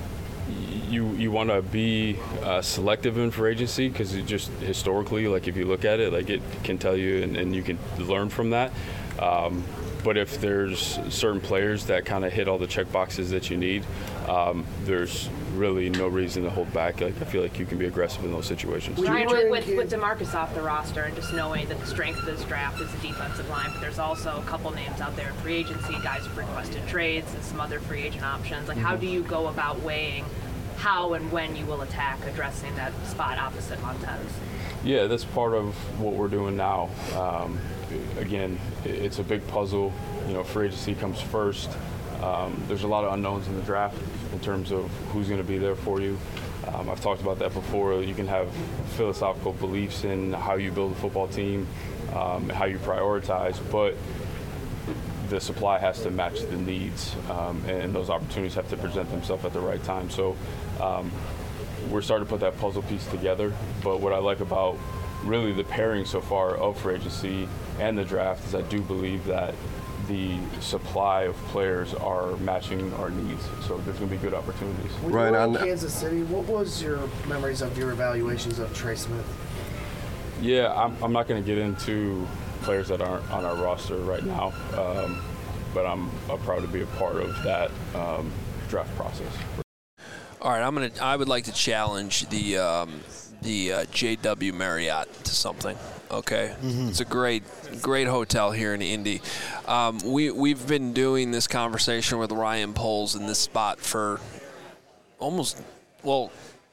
you you want to be uh, selective in free agency because it just historically, like if you look at it, like it can tell you, and, and you can learn from that. Um, but if there's certain players that kind of hit all the check boxes that you need, um, there's really no reason to hold back. Like I feel like you can be aggressive in those situations. Ryan, with, with, with DeMarcus off the roster and just knowing that the strength of this draft is the defensive line, but there's also a couple names out there in free agency, guys who've requested trades and some other free agent options. Like, mm-hmm. how do you go about weighing how and when you will attack addressing that spot opposite Montez? Yeah, that's part of what we're doing now. Um, again, it's a big puzzle. You know, free agency comes first. Um, there's a lot of unknowns in the draft in terms of who's going to be there for you. Um, I've talked about that before. You can have philosophical beliefs in how you build a football team, um, how you prioritize, but the supply has to match the needs, um, and those opportunities have to present themselves at the right time. So um, we're starting to put that puzzle piece together. But what I like about really the pairing so far of free agency and the draft is I do believe that the supply of players are matching our needs, so there's going to be good opportunities. When you were in Kansas City, what was your memories of your evaluations of Trey Smith? Yeah, I'm, I'm not going to get into players that aren't on our roster right now, um, but I'm, I'm proud to be a part of that um, draft process. All right, I'm gonna. I would like to challenge the um, the uh, J W Marriott to something. Okay, mm-hmm. It's a great, great hotel here in Indy. Um, we we've been doing this conversation with Ryan Poles in this spot for almost, well,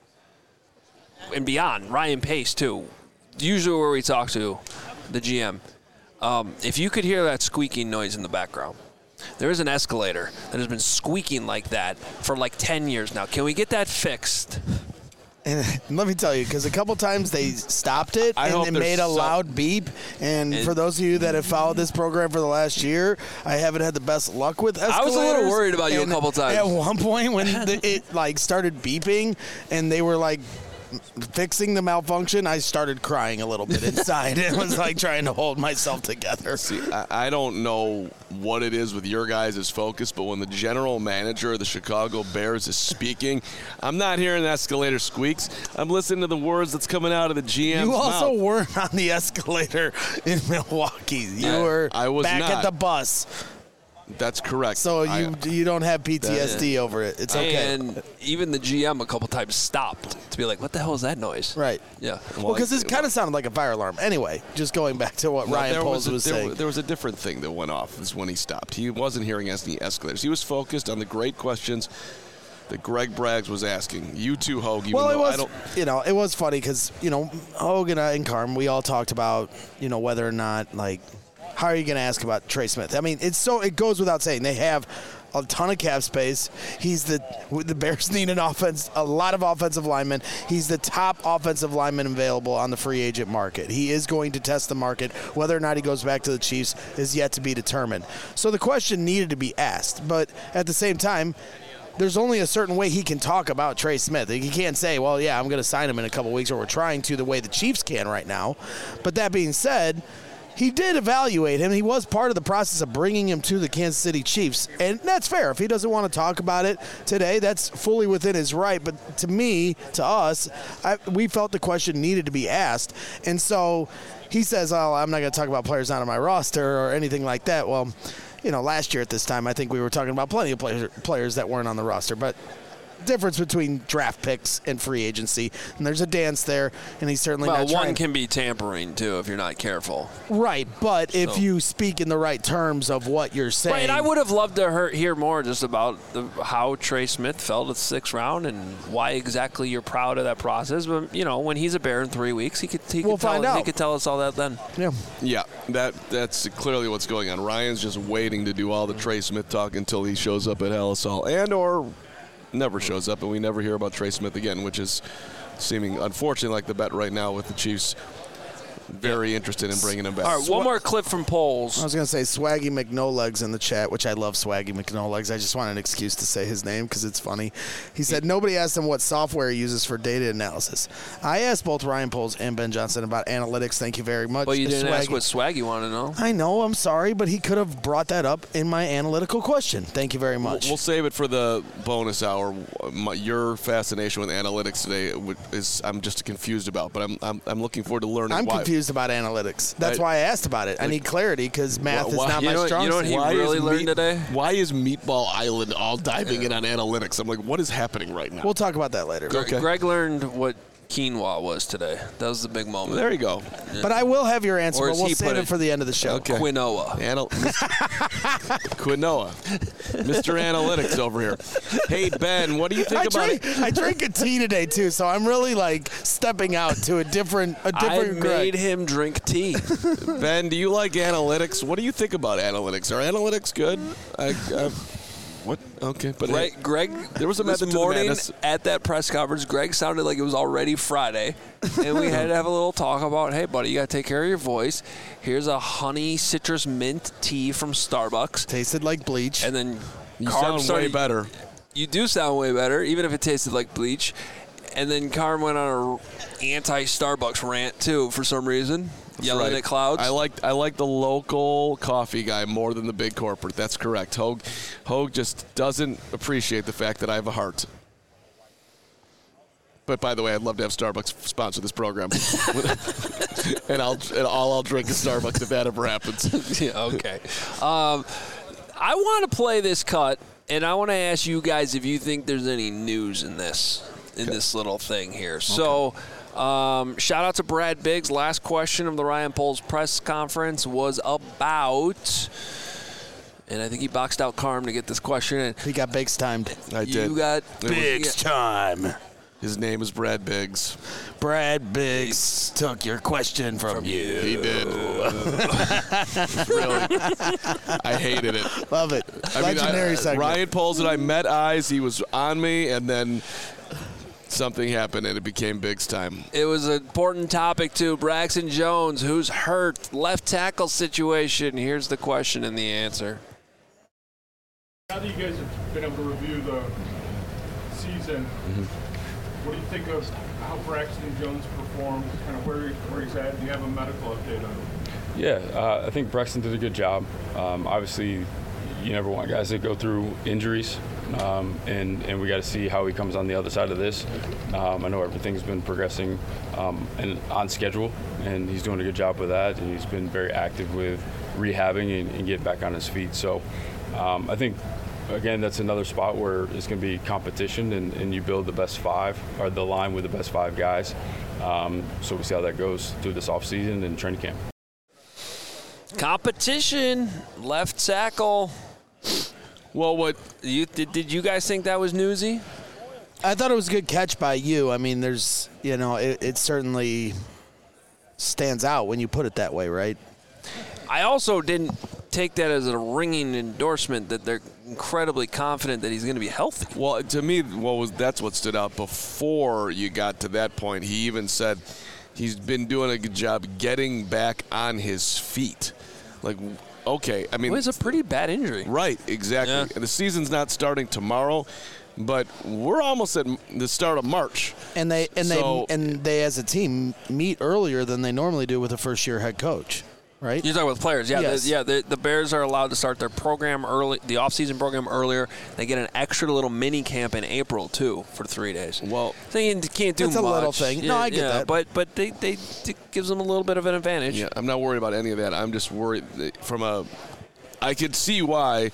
and beyond, Ryan Pace, too. Usually where we talk to the G M, um, if you could hear that squeaking noise in the background, there is an escalator that has been squeaking like that for like ten years now. Can we get that fixed? And let me tell you, because a couple times they stopped it I and hope it there's made a some- loud beep. And, And- for those of you that have followed this program for the last year, I haven't had the best luck with escalators. I was a little worried about you a And couple times. At one point when the, it like started beeping and they were like fixing the malfunction, I started crying a little bit inside. It was like trying to hold myself together. See, I, I don't know what it is with your guys' focus, but when the general manager of the Chicago Bears is speaking, I'm not hearing the escalator squeaks. I'm listening to the words that's coming out of the G M's You also mouth. weren't on the escalator in Milwaukee. You I- were I was back not. at the bus. That's correct. So you I- you don't have P T S D over it. It's okay. And even the G M a couple times stopped to be like, what the hell is that noise? Right. Yeah. Well, because this kind of sounded like a fire alarm. Anyway, just going back to what No, Ryan there Poles was, was, a, there, saying. there was a different thing that went off is when he stopped. He wasn't hearing any escalators. He was focused on the great questions that Greg Braggs was asking. You too, Hogue. Even well, it though I was, don't, you know, it was funny because, you know, Hogan and Carm, we all talked about, you know, whether or not, like, how are you going to ask about Trey Smith? I mean, it's so it goes without saying. They have a ton of cap space. He's the the Bears need an offense, a lot of offensive linemen. He's the top offensive lineman available on the free agent market. He is going to test the market. Whether or not he goes back to the Chiefs is yet to be determined. So the question needed to be asked, but at the same time, there's only a certain way he can talk about Trey Smith. He can't say, well, yeah, I'm going to sign him in a couple weeks, or we're trying to the way the Chiefs can right now. But that being said, he did evaluate him. He was part of the process of bringing him to the Kansas City Chiefs. And that's fair. If he doesn't want to talk about it today, that's fully within his right. But to me, to us, I, we felt the question needed to be asked. And so he says, oh, I'm not going to talk about players not on my roster or anything like that. Well, you know, last year at this time, I think we were talking about plenty of players, players that weren't on the roster. But difference between draft picks and free agency, and there's a dance there, and he's certainly Well, not trying. one can be tampering, too, if you're not careful. Right, but if So- you speak in the right terms of what you're saying. Right, I would have loved to hear, hear more just about the, how Trey Smith fell to the sixth round and why exactly you're proud of that process. But, you know, when he's a Bear in three weeks, he could, he We'll could, tell, find out. he could tell us all that then. Yeah. yeah, that that's clearly what's going on. Ryan's just waiting to do all the Trey Smith talk until he shows up at Halisol and or never shows up, and we never hear about Trey Smith again, which is seeming, unfortunately, like the bet right now with the Chiefs. Very interested in bringing him back. All right, one more clip from Poles. I was going to say Swaggy McNolegs in the chat, which I love Swaggy McNolegs. I just want an excuse to say his name because it's funny. He said nobody asked him what software he uses for data analysis. I asked both Ryan Poles and Ben Johnson about analytics. Thank you very much. Well, you didn't Swaggy. ask what Swaggy wanted to know. I know, I'm sorry, but he could have brought that up in my analytical question. Thank you very much. We'll, we'll save it for the bonus hour. My, your fascination with analytics today is I'm just confused about, but I'm I'm, I'm looking forward to learning I'm why. confused about analytics. That's I- why I asked about it. I need clarity because math is Why- not you my know what- strong you know what suit. he Why really is learned meat- today? Why is Meatball Island all diving in on analytics? I'm like, what is happening right now? We'll talk about that later. Okay. Greg learned what quinoa was today. That was the big moment. There you go. But I will have your answer, Or but as we'll he save put it it, for the end of the show. Okay. Quinoa. Anal- Quinoa. Mister Analytics over here. Hey, Ben, what do you think I about drink, it? I drink a tea today too, so I'm really like stepping out to a different, a I different. made Greg. him drink tea. Ben, do you like analytics? What do you think about analytics? Are analytics good? I, I, what? Okay, but Greg, Greg, there was a this method to the morning madness. at that press conference, Greg sounded like it was already Friday, and we had to have a little talk about, hey, buddy, you got to take care of your voice. Here's a honey citrus mint tea from Starbucks. Tasted like bleach. And then You Carm sound way started- better. You do sound way better, even if it tasted like bleach. And then Carm went on a anti-Starbucks rant, too, for some reason. Yelling Right. at clouds. I like I like the local coffee guy more than the big corporate. That's correct. Hogue, Hogue just doesn't appreciate the fact that I have a heart. But by the way, I'd love to have Starbucks sponsor this program, and I'll and all I'll drink is Starbucks if that ever happens. Yeah, okay. Um, I want to play this cut, and I want to ask you guys if you think there's any news in this in this little thing here. So. Um, shout out to Brad Biggs. Last question of the Ryan Poles press conference was about And I think he boxed out Carm to get this question in. He got Biggs timed. I You did. got Biggs time. His name is Brad Biggs. Brad Biggs took your question from, from you. He did. Really. I hated it. Love it. I Legendary mean, I, segment. Ryan Poles and I met eyes. He was on me, and then something happened, and it became Biggs time. It was an important topic, too. Braxton Jones, who's hurt, left tackle situation. Here's the question and the answer. Now that you guys have been able to review the season, mm-hmm. what do you think of how Braxton Jones performed, kind of where, where he's at? Do you have a medical update on him? Yeah, uh, I think Braxton did a good job. Um, obviously, you never want guys that go through injuries, um, and, and we got to see how he comes on the other side of this. Um, I know everything's been progressing um, and on schedule, and he's doing a good job with that, and he's been very active with rehabbing and, and getting back on his feet. So um, I think, again, that's another spot where it's going to be competition, and, and you build the best five, or the line with the best five guys. Um, so we see how that goes through this offseason and training camp. Competition, left tackle. Well, what you did? Did you guys think that was newsy? I thought it was a good catch by you. I mean, there's, you know, it, it certainly stands out when you put it that way, right? I also didn't take that as a ringing endorsement that they're incredibly confident that he's going to be healthy. Well, to me, what was that's what stood out before you got to that point. He even said he's been doing a good job getting back on his feet. Like, okay, I mean, well, it's a pretty bad injury. Right, exactly. Yeah. And the season's not starting tomorrow, but we're almost at the start of March. And they and so, they and they as a team meet earlier than they normally do with a first-year head coach. Right? You're talking about players, yeah. Yes. The, yeah, the, the Bears are allowed to start their program early, the off-season program earlier. They get an extra little mini camp in April too for three days. Well, so you can't do that's much. a little thing. Yeah, no, I get yeah, that. But but they, they it gives them a little bit of an advantage. Yeah, I'm not worried about any of that. I'm just worried that from a. I could see why.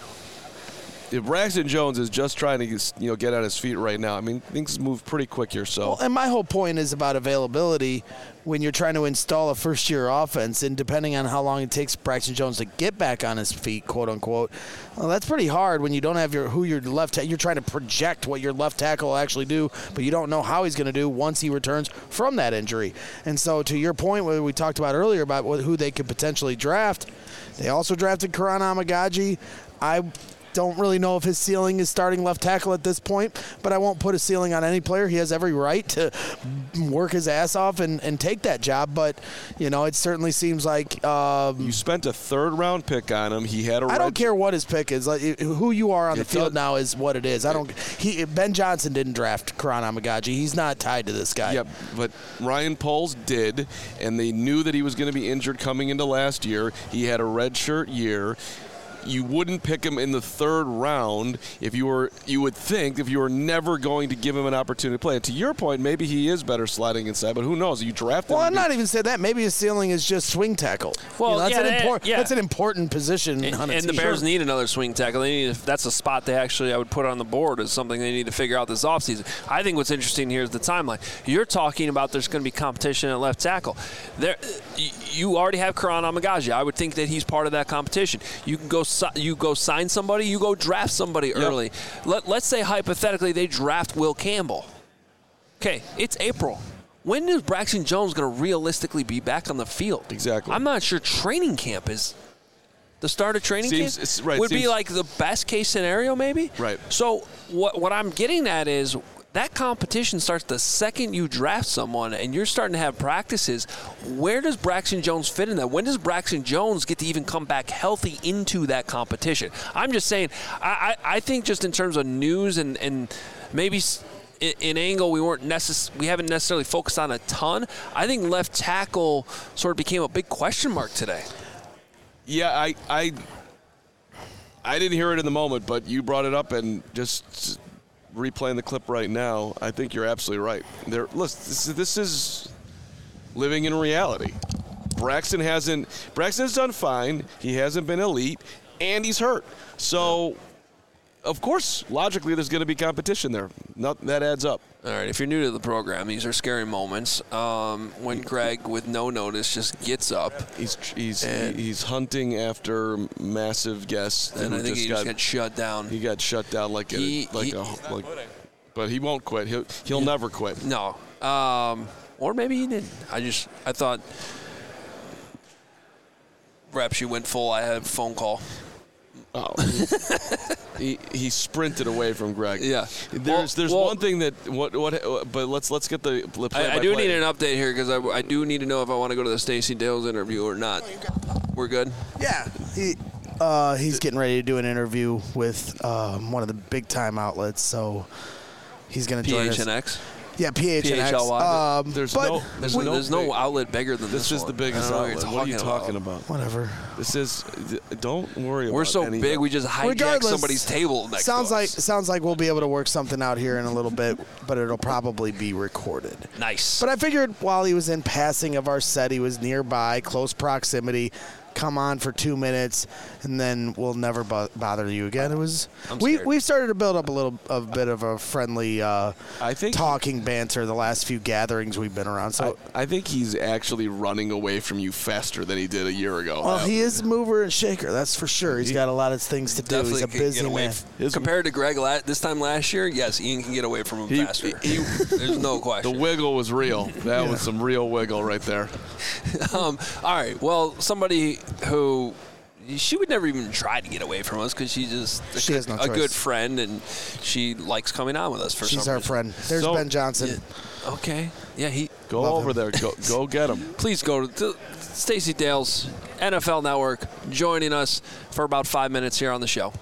If Braxton Jones is just trying to get, you know get on his feet right now, I mean things move pretty quick here. So, well, and my whole point is about availability when you're trying to install a first-year offense, and depending on how long it takes Braxton Jones to get back on his feet, quote unquote, well, that's pretty hard when you don't have your who your left. Ta- you're trying to project what your left tackle will actually do, but you don't know how he's going to do once he returns from that injury. And so, to your point, what we talked about earlier about what, who they could potentially draft, they also drafted Karan Amagaji. I. Don't really know if his ceiling is starting left tackle at this point, but I won't put a ceiling on any player. He has every right to work his ass off and, and take that job, but, you know, it certainly seems like um, you spent a third-round pick on him. He had a I red don't care what his pick is. Like, who you are on the It field does- now is what it is. I don't. He Ben Johnson didn't draft Karan Amagaji. He's not tied to this guy. Yep, but Ryan Poles did, and they knew that he was going to be injured coming into last year. He had a redshirt year. You wouldn't pick him in the third round if you were. You would think if you were never going to give him an opportunity to play. And to your point, maybe he is better sliding inside, but who knows? You draft him. Well, I'm to be- not even saying that. Maybe his ceiling is just swing tackle. Well, You know, that's, yeah, an that- import- yeah. that's an important position And, on a and the team. Bears need another swing tackle. They need, that's a spot they actually I would put on the board as something they need to figure out this offseason. I think what's interesting here is the timeline. You're talking about there's going to be competition at left tackle. There, you already have Karan Amagaji. I would think that he's part of that competition. You can go si- you go sign somebody, you go draft somebody early. Let, let's say hypothetically they draft Will Campbell. Okay, it's April. When is Braxton Jones going to realistically be back on the field? Exactly. I'm not sure training camp is the start of training Seems- camp. it's- right, would be seems- like the best case scenario, maybe. Right. So what what I'm getting at is that competition starts the second you draft someone and you're starting to have practices. Where does Braxton Jones fit in that? When does Braxton Jones get to even come back healthy into that competition? I'm just saying, I, I, I think just in terms of news and, and maybe s- in, in angle we weren't necess- we haven't necessarily focused on a ton. I think left tackle sort of became a big question mark today. Yeah, I, I, I didn't hear it in the moment, but you brought it up, and just replaying the clip right now, I think you're absolutely right. There, listen, this, this is living in reality. Braxton hasn't. Braxton's done fine. He hasn't been elite, and he's hurt. So of course, logically, there's going to be competition there. Not, that adds up. All right, if you're new to the program, these are scary moments. Um, when Greg, with no notice, just gets up. He's he's he's hunting after massive guests. And I think just he got, just got shut down. He got shut down like he, a like he, a like. But he won't quit. He'll he'll yeah. never quit. No. Um, or maybe he didn't. I just I thought. Perhaps you went full. I had a phone call. Oh, he, he sprinted away from Greg. Yeah, there's well, there's well, one thing that what what but let's let's get the play I, I do need an update here because I, I do need to know if I want to go to the Stacey Dales interview or not. We're good. Yeah, he uh, he's getting ready to do an interview with um, one of the big time outlets, so he's going to join us. P H N X. Yeah, P H N X. P H L Y. Um, there's but no there's, we, no, there's no outlet bigger than this. This is one. the biggest I don't outlet. know What are you about. talking about? Whatever. This is. Don't worry about. We're so any big, of we just hijack Regardless, somebody's table next sounds to like us. sounds like we'll be able to work something out here in a little bit, but it'll probably be recorded. Nice. But I figured while he was in passing of our set, he was nearby, close proximity. Come on for two minutes, and then we'll never bo- bother you again. It was I'm we scared. we've started to build up a little a bit of a friendly uh, I think talking banter the last few gatherings we've been around. So I, I think he's actually running away from you faster than he did a year ago. well, he is a mover and shaker, that's for sure. He's got a lot of things to do. Definitely He's a can busy get away man. f- Compared to Greg la- this time last year, yes, Ian can get away from him He- faster. he- There's no question. The wiggle was real. That was some real wiggle right there. um, all right. Well, somebody who she would never even try to get away from us because she's just a, She has no a choice. good friend and she likes coming on with us for She's some our reason. friend. There's So- Ben Johnson. Yeah. Okay. Yeah, he Go Love over him. there. Go go get him. please go to Stacey Dales, N F L Network, joining us for about five minutes here on the show.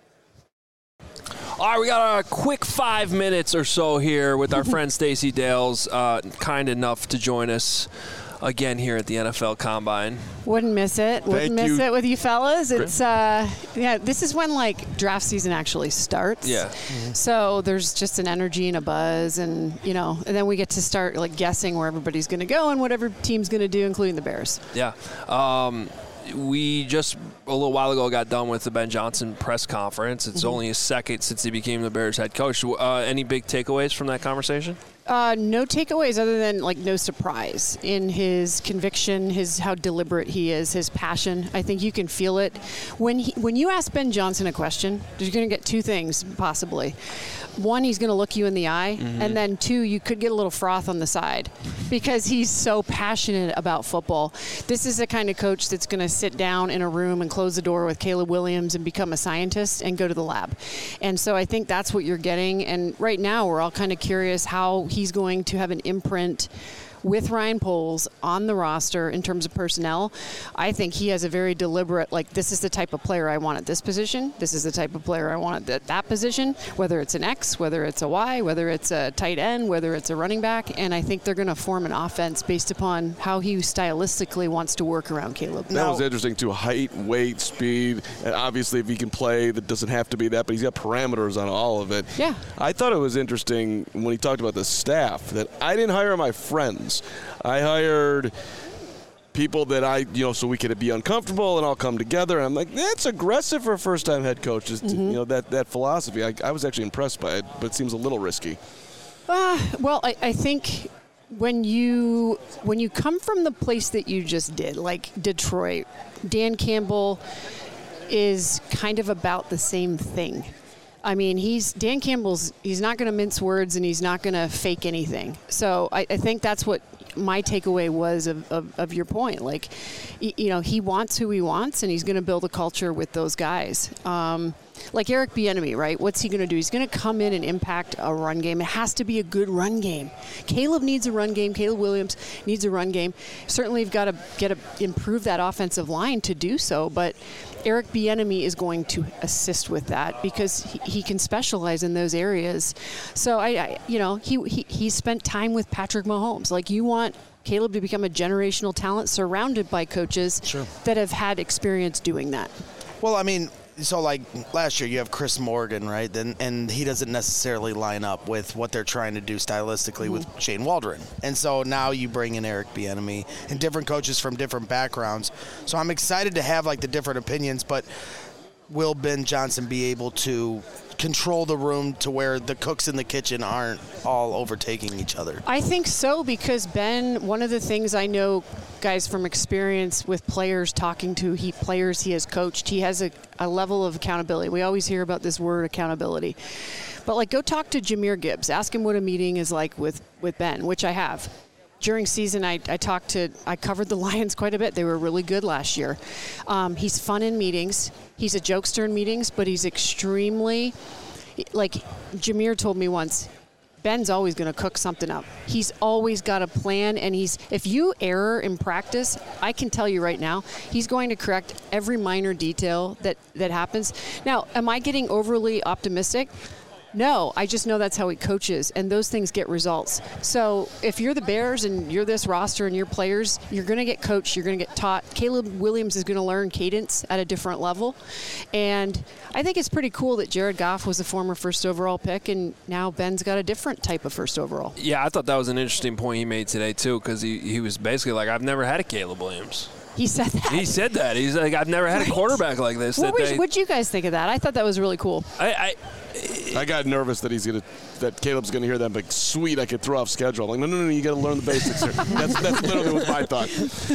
All right, we got a quick five minutes or so here with our friend Stacey Dales, uh, kind enough to join us again here at the N F L Combine. Wouldn't miss it. Wouldn't Thank miss you. it with you fellas. It's uh, yeah. This is when like draft season actually starts. Yeah. So there's just an energy and a buzz, and you know, and then we get to start like guessing where everybody's going to go and whatever team's going to do, including the Bears. Yeah. Um, we just a little while ago got done with the Ben Johnson press conference. It's Mm-hmm. only his second since he became the Bears head coach. Uh, any big takeaways from that conversation? Uh, no takeaways other than like no surprise in his conviction, his how deliberate he is, his passion. I think you can feel it when he, when you ask Ben Johnson a question. You're going to get two things possibly. One, he's going to look you in the eye, Mm-hmm. and then two, you could get a little froth on the side because he's so passionate about football. This is the kind of coach that's going to sit down in a room and close the door with Caleb Williams and become a scientist and go to the lab. And so I think that's what you're getting. And right now we're all kind of curious how he's going to have an imprint with Ryan Poles on the roster in terms of personnel. I think he has a very deliberate, like, this is the type of player I want at this position. This is the type of player I want at that position, whether it's an X, whether it's a Y, whether it's a tight end, whether it's a running back. And I think they're going to form an offense based upon how he stylistically wants to work around Caleb. That was interesting, too. Height, weight, speed. And obviously, if he can play, that doesn't have to be that, but he's got parameters on all of it. Yeah. I thought it was interesting when he talked about the staff that I didn't hire my friends. I hired people that I, you know, so we could be uncomfortable and all come together. And I'm like, that's aggressive for a first-time head coach. Just, Mm-hmm. you know, that, that philosophy. I, I was actually impressed by it, but it seems a little risky. Uh, well, I, I think when you when you come from the place that you just did, like Detroit, Dan Campbell is kind of about the same thing. I mean, he's Dan Campbell's. He's not going to mince words, and he's not going to fake anything. So I, I think that's what my takeaway was of, of, of your point. Like, y- you know, he wants who he wants, and he's going to build a culture with those guys. Um, like Eric Bieniemy, right? What's he going to do? He's going to come in and impact a run game. It has to be a good run game. Caleb needs a run game. Caleb Williams needs a run game. Certainly, you've got to get a, improve that offensive line to do so, but Eric Bieniemy is going to assist with that because he, he can specialize in those areas. So I, I you know, he, he he spent time with Patrick Mahomes. Like, you want Caleb to become a generational talent surrounded by coaches Sure. that have had experience doing that. Well, I mean, so like last year you have Chris Morgan, right? Then and he doesn't necessarily line up with what they're trying to do stylistically Mm-hmm. with Shane Waldron. And so now you bring in Eric Bieniemy and different coaches from different backgrounds. So I'm excited to have like the different opinions, but will Ben Johnson be able to control the room to where the cooks in the kitchen aren't all overtaking each other? I think so, because Ben, one of the things I know, guys, from experience with players talking to he players he has coached, he has a, a level of accountability. We always hear about this word accountability. But, like, go talk to Jahmyr Gibbs. Ask him what a meeting is like with, with Ben, which I have. During season, I, I talked to, I covered the Lions quite a bit. They were really good last year. Um, he's fun in meetings. He's a jokester in meetings, but he's extremely, like Jahmyr told me once, Ben's always going to cook something up. He's always got a plan, and he's, if you err in practice, I can tell you right now, he's going to correct every minor detail that, that happens. Now, am I getting overly optimistic? No, I just know that's how he coaches, and those things get results. So if you're the Bears and you're this roster and your players, you're going to get coached, you're going to get taught. Caleb Williams is going to learn cadence at a different level. And I think it's pretty cool that Jared Goff was a former first overall pick, and now Ben's got a different type of first overall. Yeah, I thought that was an interesting point he made today, too, because he, he was basically like, I've never had a Caleb Williams. He said that. He said that. He's like, I've never had a quarterback like this. What that would you guys think of that? I thought that was really cool. I, I I got nervous that he's gonna that Caleb's gonna hear that, but sweet, I could throw off schedule. I'm like, no, no, no, you got to learn the basics here. That's that's literally what my thought.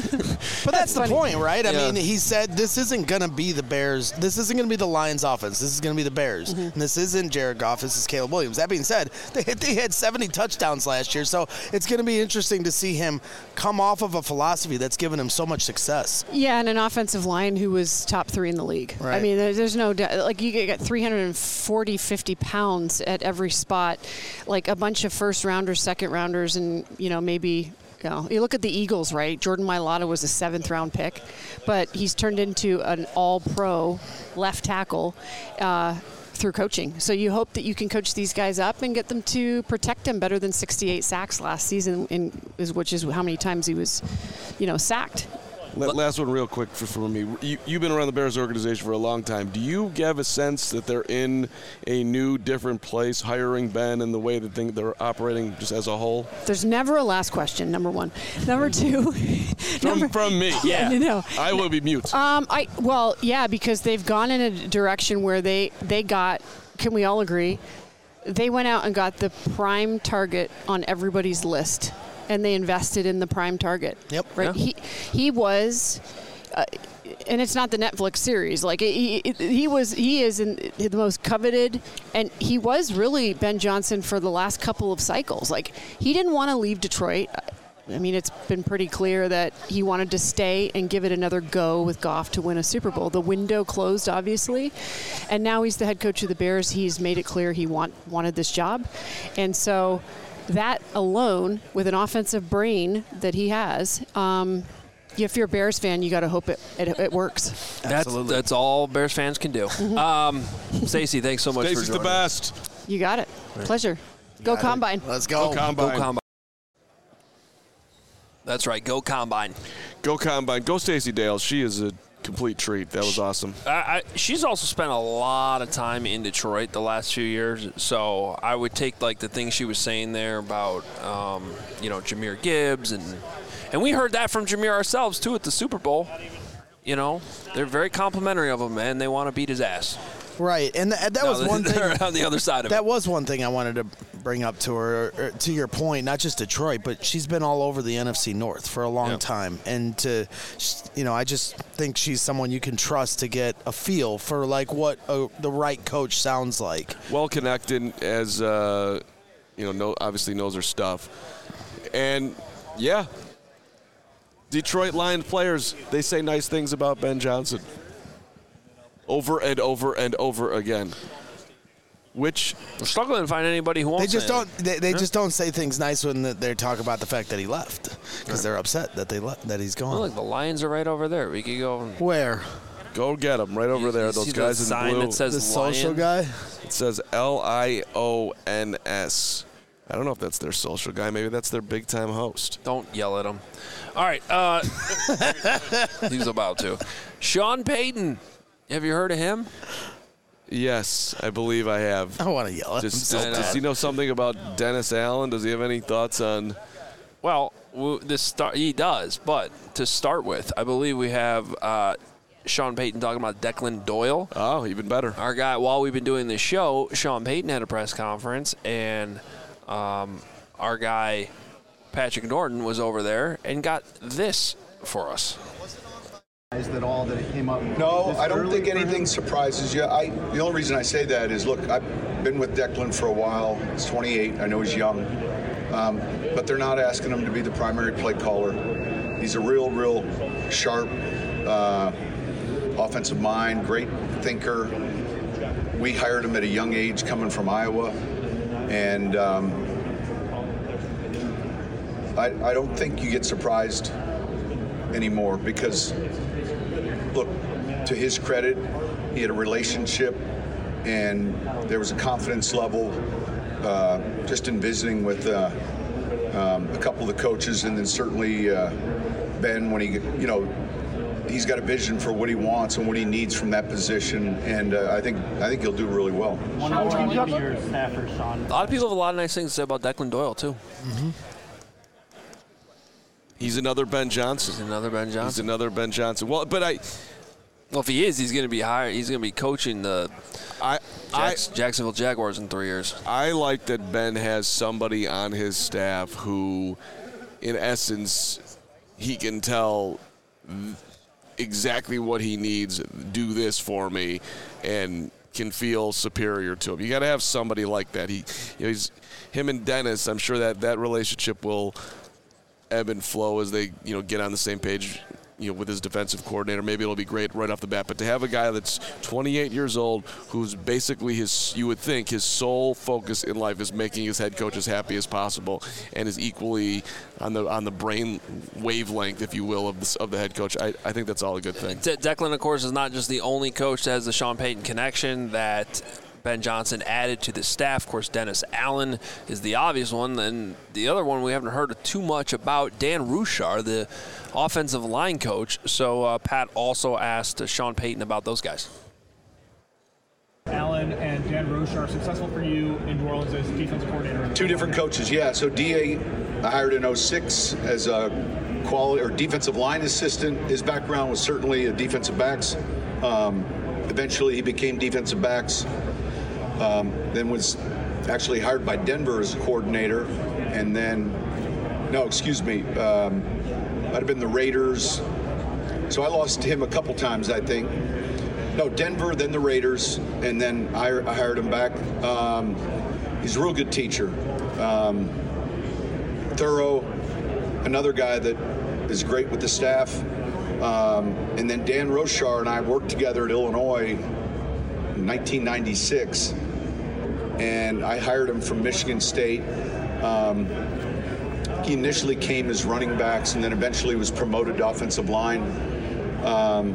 But that's, that's the point, right? I yeah. mean, he said this isn't gonna be the Bears. This isn't gonna be the Lions' offense. This is gonna be the Bears. Mm-hmm. And this isn't Jared Goff. This is Caleb Williams. That being said, they they had seventy touchdowns last year, so it's gonna be interesting to see him come off of a philosophy that's given him so much success. Yeah, and an offensive line who was top three in the league. Right. I mean, there's no doubt. Like, you get three hundred forty, fifty pounds at every spot, like a bunch of first rounders, second rounders, and, you know, maybe, you know, you look at the Eagles, right? Jordan Mailata was a seventh round pick, but he's turned into an all pro left tackle uh, through coaching. So you hope that you can coach these guys up and get them to protect them better than sixty-eight sacks last season, in, is which is how many times he was, you know, sacked. Last one real quick for, for me. You, you've been around the Bears organization for a long time. Do you have a sense that they're in a new, different place, hiring Ben and the way that they, they're operating just as a whole? There's never a last question, number one. Number two. from, number, from me. Yeah. No, no. I will be mute. Um, I Well, yeah, because they've gone in a direction where they, they got, can we all agree, they went out and got the prime target on everybody's list. And they invested in the prime target. Yep. Right. Yeah. He he was, uh, and it's not the Netflix series. Like he he was he is in the most coveted, and he was really Ben Johnson for the last couple of cycles. Like he didn't want to leave Detroit. I mean, it's been pretty clear that he wanted to stay and give it another go with Goff to win a Super Bowl. The window closed, obviously, and now he's the head coach of the Bears. He's made it clear he want wanted this job, and so. That alone, with an offensive brain that he has, um, if you're a Bears fan, you got to hope it, it it works. That's that's all Bears fans can do. um, Stacey, thanks so much Stacey's for joining the best. You got it. Pleasure. Go Got Combine. It. Let's go. Go Combine. Go Combine. That's right. Go Combine. Go Combine. Go Stacey Dales. She is a complete treat. That was awesome. I, I, she's also spent a lot of time in Detroit the last few years, so I would take like the things she was saying there about um, you know Jahmyr Gibbs and and we heard that from Jahmyr ourselves too at the Super Bowl. You know, they're very complimentary of him, and they want to beat his ass. Right, and th- that No, was one thing. they're on the other side of that it. was one thing I wanted to bring up to her. Or, to your point, not just Detroit, but she's been all over the N F C North for a long Yep. time, and to, you know, I just think she's someone you can trust to get a feel for like what a, the right coach sounds like. Well connected, as uh, you know, know, obviously knows her stuff, and yeah, Detroit Lions players, they say nice things about Ben Johnson. Over and over and over again. Which we're struggling to find anybody who won't. They just say don't. it. They, they Yeah. just don't say things nice when they talk about the fact that he left, because they're upset that they le- that he's gone. Well, look, the Lions are right over there. We could go. Where? Go get them right over You- there. you Those see guys the in sign blue. that says The social Lion? guy. It says L I O N S. I don't know if that's their social guy. Maybe that's their big time host. Don't yell at him. All right. Uh, he's about to. Sean Payton. Have you heard of him? Yes, I believe I have. I want to yell at him. Does, so does, does bad. he know something about Dennis Allen? Does he have any thoughts on? Well, w- this start he does, but to start with, I believe we have uh, Sean Payton talking about Declan Doyle. Oh, even better. Our guy, while we've been doing this show, Sean Payton had a press conference, and um, our guy, Patrick Norton, was over there and got this for us. That all that it came up. No, I don't think anything surprises you. I the only reason I say that is, look, I've been with Declan for a while. He's twenty-eight. I know he's young, um, but they're not asking him to be the primary play caller. He's a real, real sharp uh, offensive mind, great thinker. We hired him at a young age, coming from Iowa, and um, I, I don't think you get surprised anymore because. Look, to his credit, he had a relationship and there was a confidence level uh, just in visiting with uh, um, a couple of the coaches, and then certainly uh, Ben, when he, you know, he's got a vision for what he wants and what he needs from that position, and uh, I think I think he'll do really well. One more on your staffers, Sean. A lot of people have a lot of nice things to say about Declan Doyle, too. Mm-hmm. He's another Ben Johnson. He's another Ben Johnson. He's another Ben Johnson. Well, but I. Well, if he is, he's going to be hired. He's going to be coaching the I, Jacks, I, Jacksonville Jaguars in three years. I like that Ben has somebody on his staff who, in essence, he can tell exactly what he needs. Do this for me, and can feel superior to him. You got to have somebody like that. He, you know, he's him and Dennis. I'm sure that that relationship will ebb and flow as they, you know, get on the same page, you know, with his defensive coordinator. Maybe it'll be great right off the bat. But to have a guy that's twenty-eight years old, who's basically his, you would think, his sole focus in life is making his head coach as happy as possible, and is equally on the on the brain wavelength, if you will, of the, of the head coach. I, I think that's all a good thing. De- Declan, of course, is not just the only coach that has the Sean Payton connection that Ben Johnson added to the staff. Of course, Dennis Allen is the obvious one. And the other one we haven't heard too much about, Dan Ruchar, the offensive line coach. So uh, Pat also asked uh, Sean Payton about those guys. Allen and Dan Ruchar, successful for you in New Orleans as defensive coordinator? Two different coaches, yeah. So D A I hired in oh six as a quality or defensive line assistant. His background was certainly a defensive backs. Um, eventually he became defensive backs. Um, then was actually hired by Denver as a coordinator, and then, no, excuse me, um, might have been the Raiders. So I lost him a couple times, I think. No, Denver, then the Raiders, and then I, I hired him back. Um, he's a real good teacher, um, thorough, another guy that is great with the staff. Um, and then Dan Ruchar and I worked together at Illinois in nineteen ninety-six, and I hired him from Michigan State. Um, he initially came as running backs and then eventually was promoted to offensive line. Um,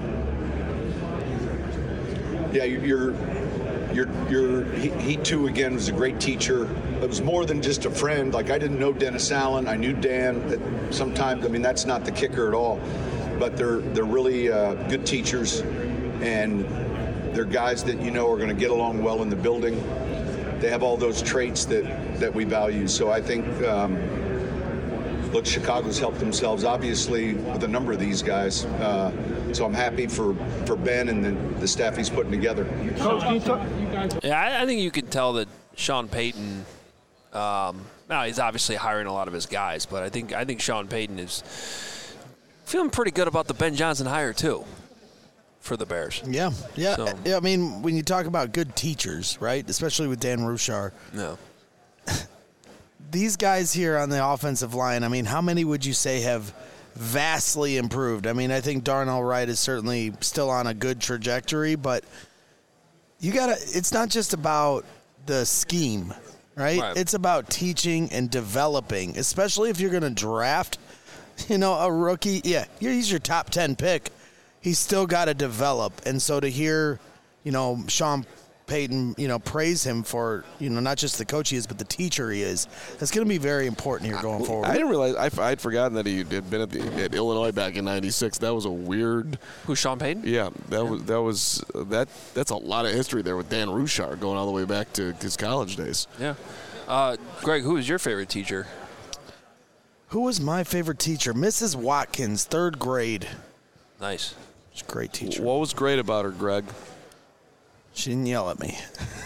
yeah, you're, you're, you're, he, he too, again, was a great teacher. It was more than just a friend. Like, I didn't know Dennis Allen. I knew Dan. Sometimes, I mean, that's not the kicker at all. But they're, they're really uh, good teachers, and they're guys that you know are going to get along well in the building. They have all those traits that, that we value. So I think, um, look, Chicago's helped themselves, obviously, with a number of these guys. Uh, so I'm happy for, for Ben and the, the staff he's putting together. Coach, can you talk, you guys? Yeah, I, I think you can tell that Sean Payton, um, now he's obviously hiring a lot of his guys, but I think I think Sean Payton is feeling pretty good about the Ben Johnson hire, too, for the Bears. Yeah, yeah. So, yeah. I mean, when you talk about good teachers, right, especially with Dan Ruchar. No. These guys here on the offensive line, I mean, how many would you say have vastly improved? I mean, I think Darnell Wright is certainly still on a good trajectory, but you got to, it's not just about the scheme, right? Right. It's about teaching and developing, especially if you're going to draft, you know, a rookie. Yeah, he's your top ten pick. He's still got to develop. And so to hear, you know, Sean Payton, you know, praise him for, you know, not just the coach he is, but the teacher he is, that's going to be very important here going forward. I didn't realize, I, I'd forgotten that he had been at, the, at Illinois back in ninety-six. That was a weird. Who, Sean Payton? Yeah, that was, that was, that, that's a lot of history there with Dan Ruchar going all the way back to his college days. Yeah. Uh, Greg, who is your favorite teacher? Who was my favorite teacher? Missus Watkins, third grade. Nice. She's a great teacher. What was great about her, Greg? She didn't yell at me.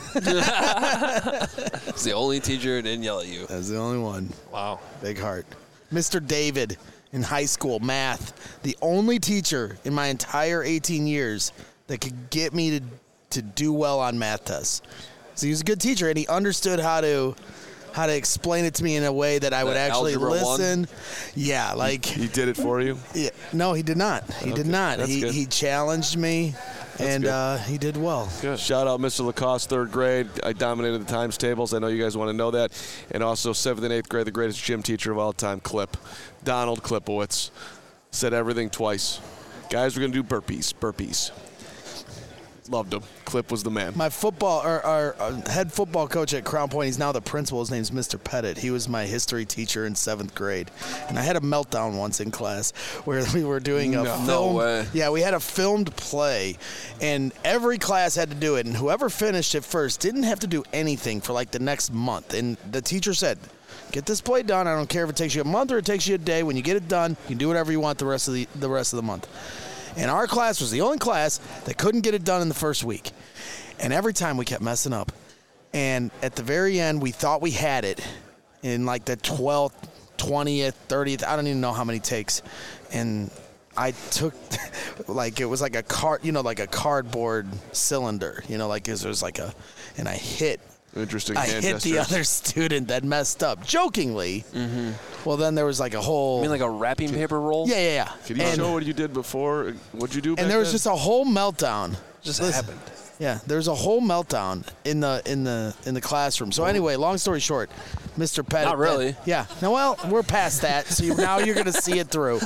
It's the only teacher who didn't yell at you. That's the only one. Wow. Big heart. Mister David in high school, math. The only teacher in my entire eighteen years that could get me to, to do well on math tests. So he was a good teacher, and he understood how to how to explain it to me in a way that I would The actually algebra listen. one? Yeah, like He did it for you? yeah, no, he did not. He Okay, did not. that's He good. he challenged me, and good. uh, he did well. Good. Shout out Mister Lacoste, third grade. I dominated the times tables. I know you guys want to know that. And also seventh and eighth grade, the greatest gym teacher of all time, Clip. Donald Klipowitz. Said everything twice. Guys, we're going to do burpees. Burpees. Loved him. Clip was the man. My football, our, our, our head football coach at Crown Point, he's now the principal. His name's Mister Pettit. He was my history teacher in seventh grade. And I had a meltdown once in class where we were doing a No. film. No way. Yeah, we had a filmed play, and every class had to do it. And whoever finished it first didn't have to do anything for like the next month. And the teacher said, get this play done. I don't care if it takes you a month or it takes you a day. When you get it done, you can do whatever you want the rest of the the rest of the month. And our class was the only class that couldn't get it done in the first week. And every time we kept messing up. And at the very end, we thought we had it in like the twelfth, twentieth, thirtieth, I don't even know how many takes. And I took, like, it was like a card, you know, like a cardboard cylinder, you know, like it was like a, and I hit. Interesting. I hand hit the gestures. other student that messed up, jokingly. Mm-hmm. Well, then there was like a whole. You mean like a wrapping paper roll? Yeah, yeah, yeah. Can you and, show what you did before? What'd you do back and there was then? just a whole meltdown. Just Listen, happened. Yeah, there's a whole meltdown in the in the in the classroom. So anyway, long story short, Mister Pettit. Not really. Yeah. No, well, we're past that. So you, now you're going to see it through.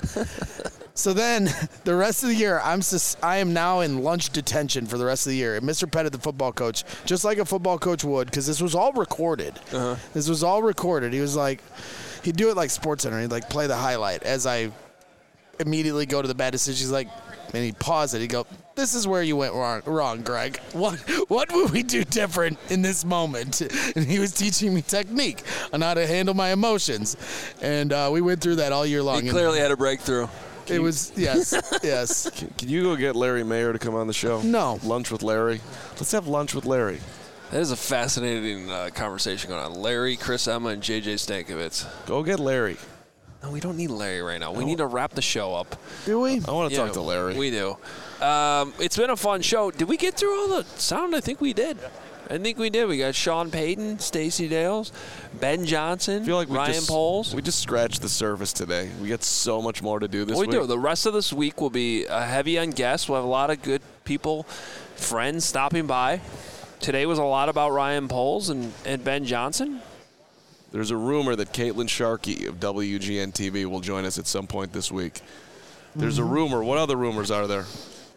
So then, the rest of the year, I'm sus- I am now in lunch detention for the rest of the year. And Mister Pettit, the football coach, just like a football coach would, because this was all recorded. Uh-huh. This was all recorded. He was like, he'd do it like SportsCenter. He'd like play the highlight as I immediately go to the bad decision. He's like, and he'd pause it. He'd go, "This is where you went wrong, wrong, Greg. What what would we do different in this moment?" And he was teaching me technique on how to handle my emotions, and uh, we went through that all year long. He clearly had a breakthrough. It was yes, yes. Can, can you go get Larry Mayer to come on the show? No. Lunch with Larry. Let's have lunch with Larry. That is a fascinating uh, conversation going on. Larry, Chris Emma, and J J Stankovitz. Go get Larry. No, we don't need Larry right now. We need to wrap the show up. Do we? I want to Yeah, talk to Larry. We do. Um, it's been a fun show. Did we get through all the sound? I think we did. I think we did. We got Sean Payton, Stacey Dales, Ben Johnson, I feel like we Ryan just, Poles. We just scratched the surface today. We got so much more to do this we week. do. The rest of this week will be uh, heavy on guests. We'll have a lot of good people, friends stopping by. Today was a lot about Ryan Poles and, and Ben Johnson. There's a rumor that Caitlin Sharkey of W G N T V will join us at some point this week. There's Mm-hmm. a rumor. What other rumors are there?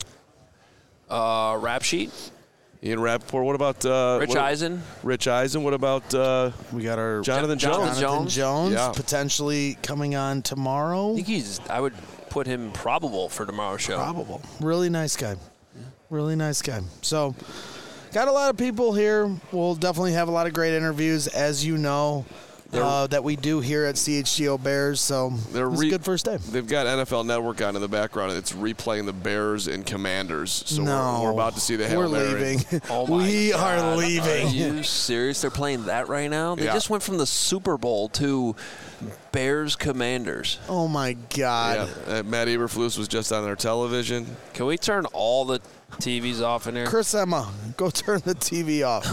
Uh, rap sheet. Ian Rappaport. What about uh, Rich what, Eisen. Rich Eisen. What about uh, We got our Jonathan Jones? Jonathan Jonathan Jones? Jones, Yeah. potentially coming on tomorrow. I think he's. I would put him probable for tomorrow's show. Probable. Really nice guy. Really nice guy. So, got a lot of people here. We'll definitely have a lot of great interviews, as you know, uh, that we do here at C H G O Bears. So, They're it was re- a good first day. They've got N F L Network on in the background. It's replaying the Bears and Commanders. So no, we're, we're about to see the Hail We're Mary. leaving. Oh my we God. are leaving. Are you serious? They're playing that right now? They Yeah. just went from the Super Bowl to Bears Commanders. Oh my God. Yeah, uh, Matt Eberflus was just on their television. Can we turn all the T Vs off in here? Chris Emma, go turn the T V off.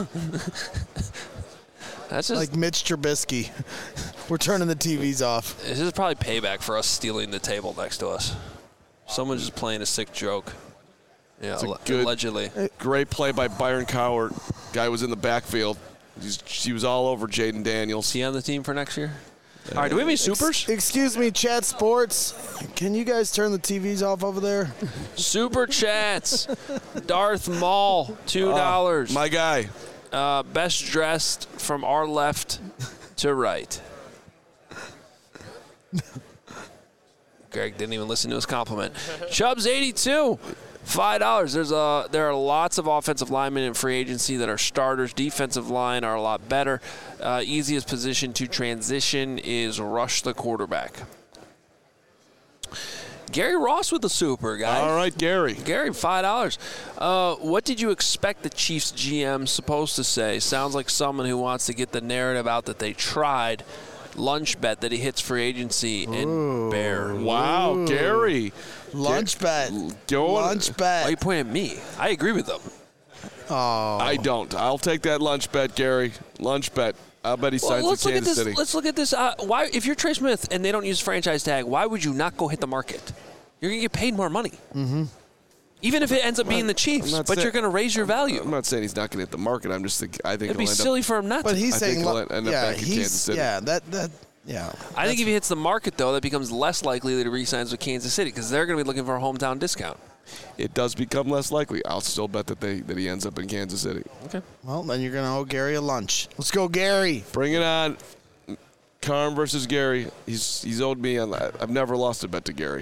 That's just Like Mitch Trubisky. We're turning the T Vs off. this is probably payback for us stealing the table next to us. Someone's just playing a sick joke. Yeah, It's a alle- good- allegedly. Great play by Byron Cowart. Guy was in the backfield. He's, he was all over Jaden Daniels. Is he on the team for next year? All right, do we have any supers? Excuse me, Chat Sports. Can you guys turn the T Vs off over there? Super chats. Darth Maul, two dollars. My guy. Uh, best dressed from our left to right. Greg didn't even listen to his compliment. Chubbs eighty-two, five dollars. There's a there are lots of offensive linemen in free agency that are starters. Defensive line are a lot better. Uh, easiest position to transition is rush the quarterback. Gary Ross with the super, guys. All right, Gary. Gary, five dollars. Uh, what did you expect the Chiefs G M supposed to say? Sounds like someone who wants to get the narrative out that they tried. Lunch bet that he hits free agency in Bear. Wow, Ooh. Gary. Lunch Ge- bet. Going. Lunch bet. Why are you pointing at me? I agree with them. Oh. I don't. I'll take that lunch bet, Gary. Lunch bet. I'll bet he signs well, with Kansas this, City. Let's look at this. Uh, why, if you're Trey Smith and they don't use franchise tag, why would you not go hit the market? You're going to get paid more money. Mm-hmm. Even if it ends up being the Chiefs, but saying, you're going to raise your value. I'm not saying he's not going to hit the market. I'm just think I think it'd be he'll end silly up, for him not but to. he's I saying, think he'll end up yeah, back in he's, Kansas City. yeah, that that yeah. I think if he hits the market though, that becomes less likely that he re-signs with Kansas City because they're going to be looking for a hometown discount. It does become less likely. I'll still bet that they that he ends up in Kansas City. Okay. Well, then you're going to owe Gary a lunch. Let's go, Gary. Bring it on. Carm versus Gary. He's he's owed me. On, I've never lost a bet to Gary.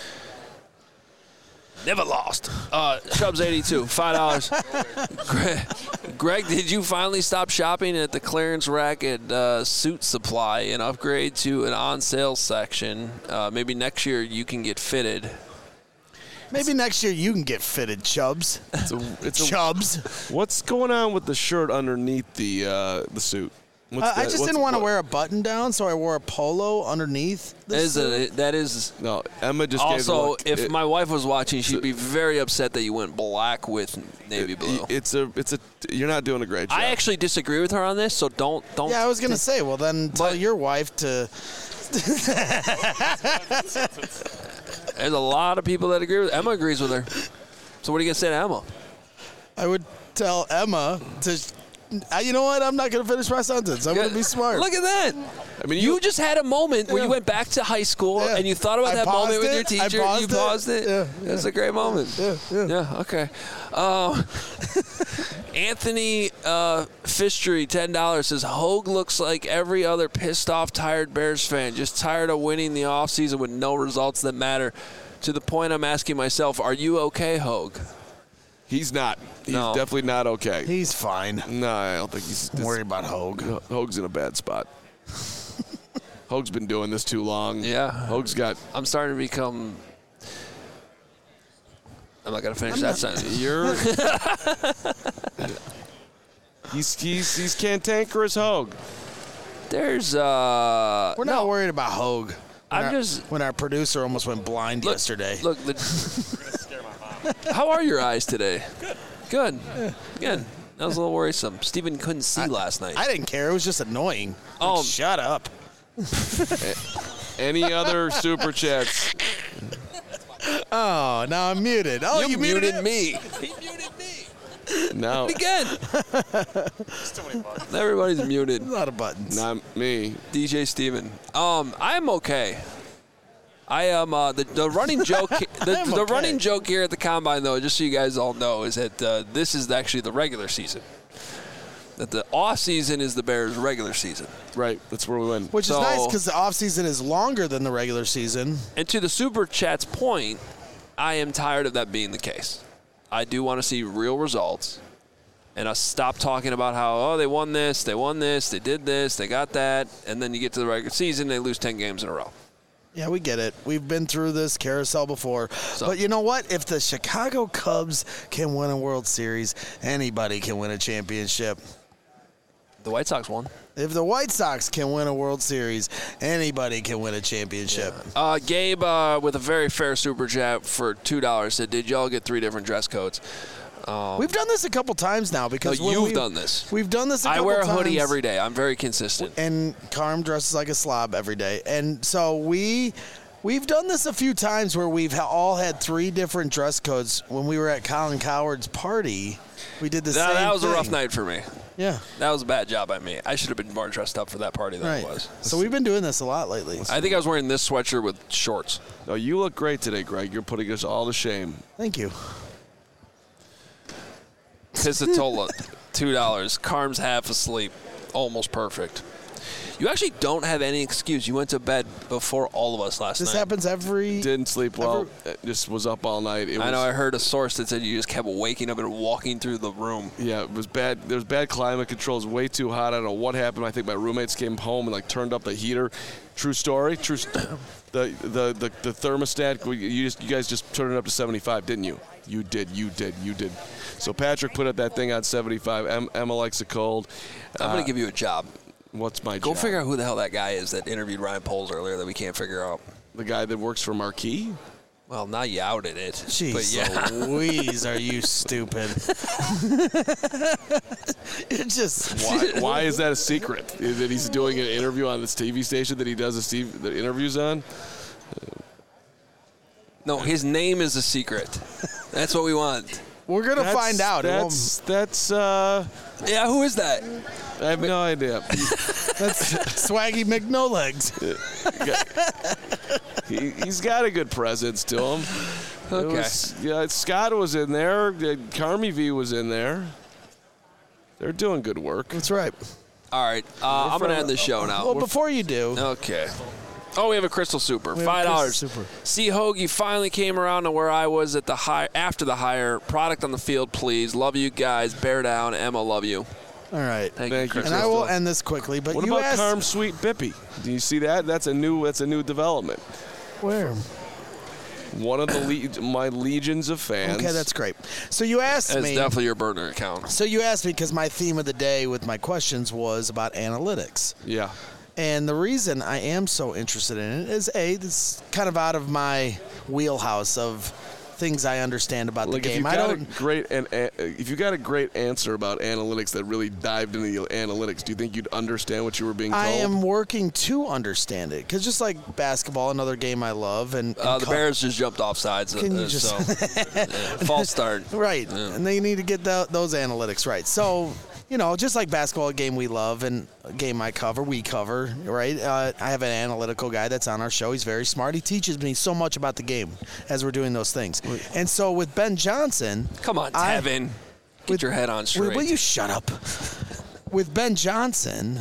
Never lost. Uh, Chubbs eighty-two, five dollars. Greg, Greg, did you finally stop shopping at the clearance rack at uh, Suit Supply and upgrade to an on-sale section? Uh, maybe next year you can get fitted. Maybe next year you can get fitted, Chubbs. It's a, it's Chubbs. A, what's going on with the shirt underneath the uh, the suit? Uh, I just didn't want to wear a button down, so I wore a polo underneath. That is, a, that is no. Emma just also. Gave a look. If it, my wife was watching, she'd be very upset that you went black with navy it, blue. It's a. It's a. You're not doing a great job. I actually disagree with her on this, so don't don't. Yeah, I was gonna say. Well, then tell but, your wife to. There's a lot of people that agree with Emma. Agrees with her. So what are you gonna say to Emma? I would tell Emma to. Uh, you know what? I'm not going to finish my sentence. I'm yeah, going to be smart. Look at that. I mean, you, you just had a moment yeah. where you went back to high school yeah. and you thought about I that moment it. with your teacher. I paused you paused it. it. Yeah, That's yeah. a great moment. Yeah, yeah. Yeah. Okay. Um, Anthony uh, Fistry, ten dollars, says Hogue looks like every other pissed off, tired Bears fan, just tired of winning the offseason with no results that matter. To the point, I'm asking myself, are you okay, Hogue? He's not. He's no. definitely not okay. He's fine. No, I don't think he's. Don't worry about Hogue. Hogue's in a bad spot. Hogue's been doing this too long. Yeah. Hogue's got. I'm starting to become. I'm not gonna finish I'm that not, sentence. You're. he's he's he's cantankerous Hogue. There's uh. We're not no. worried about Hogue. When I'm our, just when our producer almost went blind look, yesterday. Look. The, How are your eyes today? Good. Good. Yeah. Good. That was a little worrisome. Steven couldn't see I, last night. I didn't care. It was just annoying. Oh, like, shut up. Any other super chats? Oh, now I'm muted. Oh, you, you muted, muted me. He muted me. No. Again. There's too many buttons. Everybody's muted. A lot of buttons. Not me. D J Steven. Um, I'm okay. I am uh, the the running joke. The, the okay. running joke here at the combine, though, just so you guys all know, is that uh, this is actually the regular season. That the off season is the Bears' regular season. Right. That's where we win. Which so, is nice because the off season is longer than the regular season. And to the Super Chat's point, I am tired of that being the case. I do want to see real results. And us stop talking about how, oh, they won this, they won this, they did this, they got that. And then you get to the regular season, they lose ten games in a row. Yeah, we get it. We've been through this carousel before. So, but you know what? If the Chicago Cubs can win a World Series, anybody can win a championship. The White Sox won. If the White Sox can win a World Series, anybody can win a championship. Yeah. Uh, Gabe, uh, with a very fair super chat for two dollars, said, did y'all get three different dress codes? Um, we've done this a couple times now because no, you've done this. We've done this a I couple wear a times. hoodie every day. I'm very consistent. And Carm dresses like a slob every day. And so we, we've done this a few times where we've all had three different dress codes. When we were at Colin Coward's party, we did the that, same That was thing. a rough night for me. Yeah. That was a bad job by me. I should have been more dressed up for that party than right. I was. So we've been doing this a lot lately. I think I was wearing this sweatshirt with shorts. No, you look great today, Greg. You're putting us all to shame. Thank you. Pizzatola, two dollars. Carm's half asleep. Almost perfect. You actually don't have any excuse. You went to bed before all of us last This night. happens every. Didn't sleep well. Every, just was up all night. It I was, know. I heard a source that said you just kept waking up and walking through the room. Yeah, it was bad. There was bad climate control. It was way too hot. I don't know what happened. I think my roommates came home and like turned up the heater. True story. True. St- the, the the the thermostat. You just you guys just turned it up to seventy-five, didn't you? You did. You did. You did. So Patrick put up that thing on seventy-five. Em, Emma likes it cold. I'm uh, gonna give you a job. What's my Go job? figure out who the hell that guy is that interviewed Ryan Poles earlier that we can't figure out. The guy that works for Marquee? Well, now you outed it. Jeez but yeah. Louise, are you stupid? It just Why, why is that a secret? That he's doing an interview on this T V station that he does his T V, the interviews on? No, his name is a secret. That's what we want. We're gonna That's- find out. That's that's. Uh, yeah, who is that? I have no idea. That's Swaggy McNolegs. he, he's got a good presence to him. Okay. It was, yeah, Scott was in there. Carmi V was in there. They're doing good work. That's right. All right, uh, I'm gonna end the show now. Well, before you do, Okay. Oh, we have a Crystal Super. We have a Five dollars. Crystal Super. See, Hoagie finally came around to where I was at the high after the hire. Product on the field, please. Love you guys. Bear down. Emma, love you. all right. Thank, Thank you, you, Crystal. And I will end this quickly. But What you about asked Carm Sweet Bippy? Do you see that? That's a new. That's a new development. where. One of the le- my legions of fans. Okay, that's great. So you asked It's me. definitely your burner account. So you asked me because my theme of the day with my questions was about analytics. Yeah. And the reason I am so interested in it is, A, it's kind of out of my wheelhouse of things I understand about Like the if game. you I got a don't. great and if you got a great answer about analytics that really dived into the analytics, do you think you'd understand what you were being told? I am working to understand it because just like basketball, another game I love, and, and Uh, the co- Bears just jumped off sides. Can uh, you just- so, yeah, false start. right, Yeah. and they need to get the, those analytics right. So. You know, just like basketball, a game we love and a game I cover, we cover, right? Uh, I have an analytical guy that's on our show. He's very smart. He teaches me so much about the game as we're doing those things. And so with Ben Johnson. Come on, I- Tevin. Get your head on straight. Will you shut up? With Ben Johnson,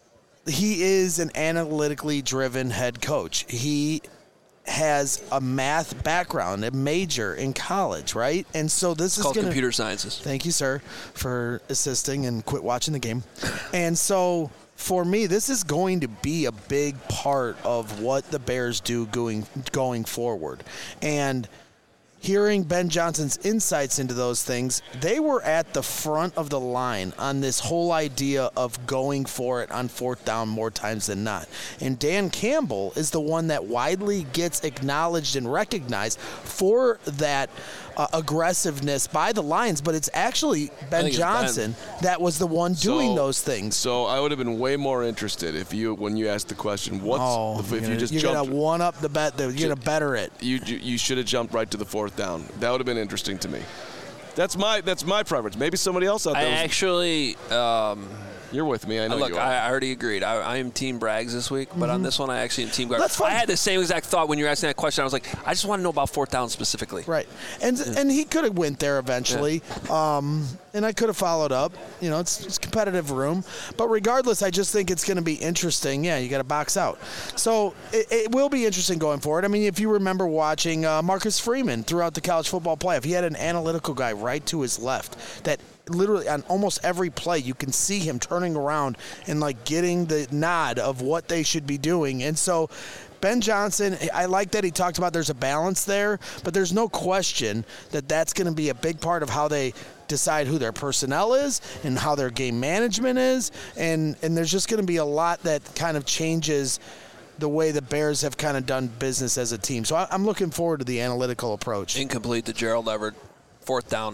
he is an analytically driven head coach. He has a math background, a major in college, right? And so this is called gonna, computer sciences. Thank you, sir, for assisting and quit watching the game. And so for me, this is going to be a big part of what the Bears do going going forward. And hearing Ben Johnson's insights into those things, they were at the front of the line on this whole idea of going for it on fourth down more times than not. And Dan Campbell is the one that widely gets acknowledged and recognized for that uh, aggressiveness by the Lions, but it's actually Ben think it's Johnson that was the one doing So- those things. So I would have been way more interested if you, when you asked the question, what's Oh, if, you're if gonna- you just you're jumped, gonna one up the bet. You're gonna better it. you you, you should have jumped right to the fourth down. That would have been interesting to me. That's my that's my preference. Maybe somebody else out I there. was- actually. Um, you're with me. I know Look, you are. I, I already agreed. I, I am Team Braggs this week, but on Mhm. this one, I actually am Team Braggs. That's fine. I had the same exact thought when you were asking that question. I was like, I just want to know about fourth down specifically. Right, and and he could have went there eventually, um, and I could have followed up. You know, it's, it's competitive room, but regardless, I just think it's going to be interesting. Yeah, you got to box out, so it, it will be interesting going forward. I mean, if you remember watching uh, Marcus Freeman throughout the college football playoff, he had an analytical guy right to his left that. Literally on almost every play, you can see him turning around and like getting the nod of what they should be doing. And so Ben Johnson, I like that he talked about there's a balance there, but there's no question that that's going to be a big part of how they decide who their personnel is and how their game management is. And, and there's just going to be a lot that kind of changes the way the Bears have kind of done business as a team. So I, I'm looking forward to the analytical approach. Incomplete to Gerald Everett. Fourth down.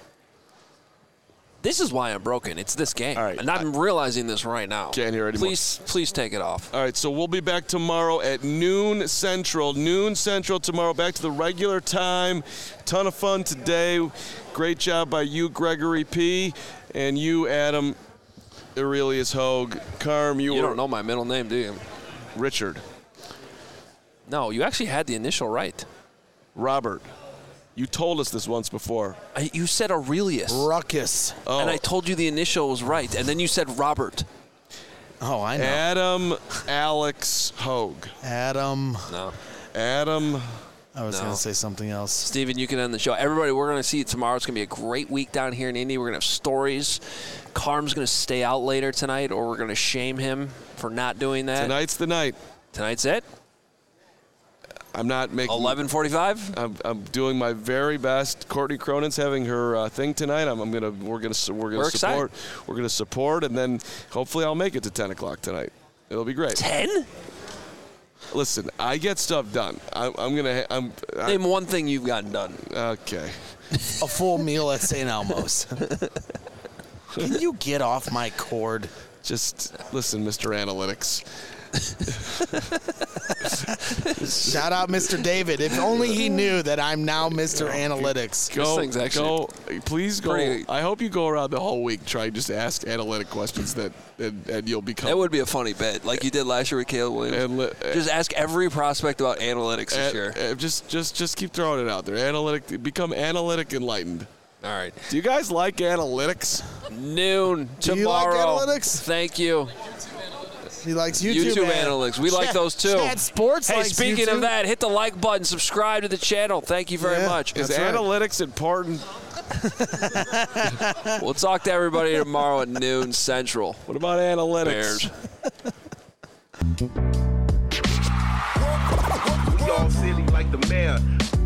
This is why I'm broken. It's this game. And I'm realizing this right now. Can't hear anymore. Please, please take it off. All right, so we'll be back tomorrow at noon Central. Noon Central tomorrow, back to the regular time. Ton of fun today. Great job by you, Gregory P., and you, Adam Aurelius Hogue. Carm, you, You were don't know my middle name, do you? Richard. No, you actually had the initial right. Robert. You told us this once before. I, you said Aurelius. Ruckus. Oh. And I told you the initial was right, and then you said Robert. Oh, I know. Adam Alex Hogue. Adam. No. Adam. I was No. going to say something else. Steven, you can end the show. Everybody, we're going to see you tomorrow. It's going to be a great week down here in Indy. We're going to have stories. Carm's going to stay out later tonight, or we're going to shame him for not doing that. Tonight's the night. Tonight's it? I'm not making eleven forty-five. I'm, I'm doing my very best. Courtney Cronin's having her uh, thing tonight. I'm, I'm gonna we're gonna we're gonna We're support. excited. We're gonna support, and then hopefully I'll make it to ten o'clock tonight. It'll be great. ten? Listen, I get stuff done. I, I'm gonna. I'm. I, Name one thing you've gotten done. Okay. A full meal at Saint Elmo's. Can you get off my cord? Just listen, Mister Analytics. Shout out Mister David. If only he knew that I'm now Mister Analytics. Go, thing's actually go, please go. pretty- I hope you go around the whole week trying just to ask analytic questions that, and, and you'll become. That would be a funny bet, like you did last year with Caleb Williams. And li- just ask every prospect about analytics this and- year. and just, just, just keep throwing it out there. Analytic, become analytic enlightened. All right. Do you guys like analytics? Noon Do you like tomorrow. analytics? Thank you. He likes YouTube, YouTube man. analytics. We like Chad- those too. Chad Sports Hey, likes speaking YouTube. of that, hit the like button, subscribe to the channel. Thank you very Yeah. much. Is That's right. analytics important? We'll talk to everybody tomorrow at noon Central. What about analytics? Bears. We all silly like the mayor.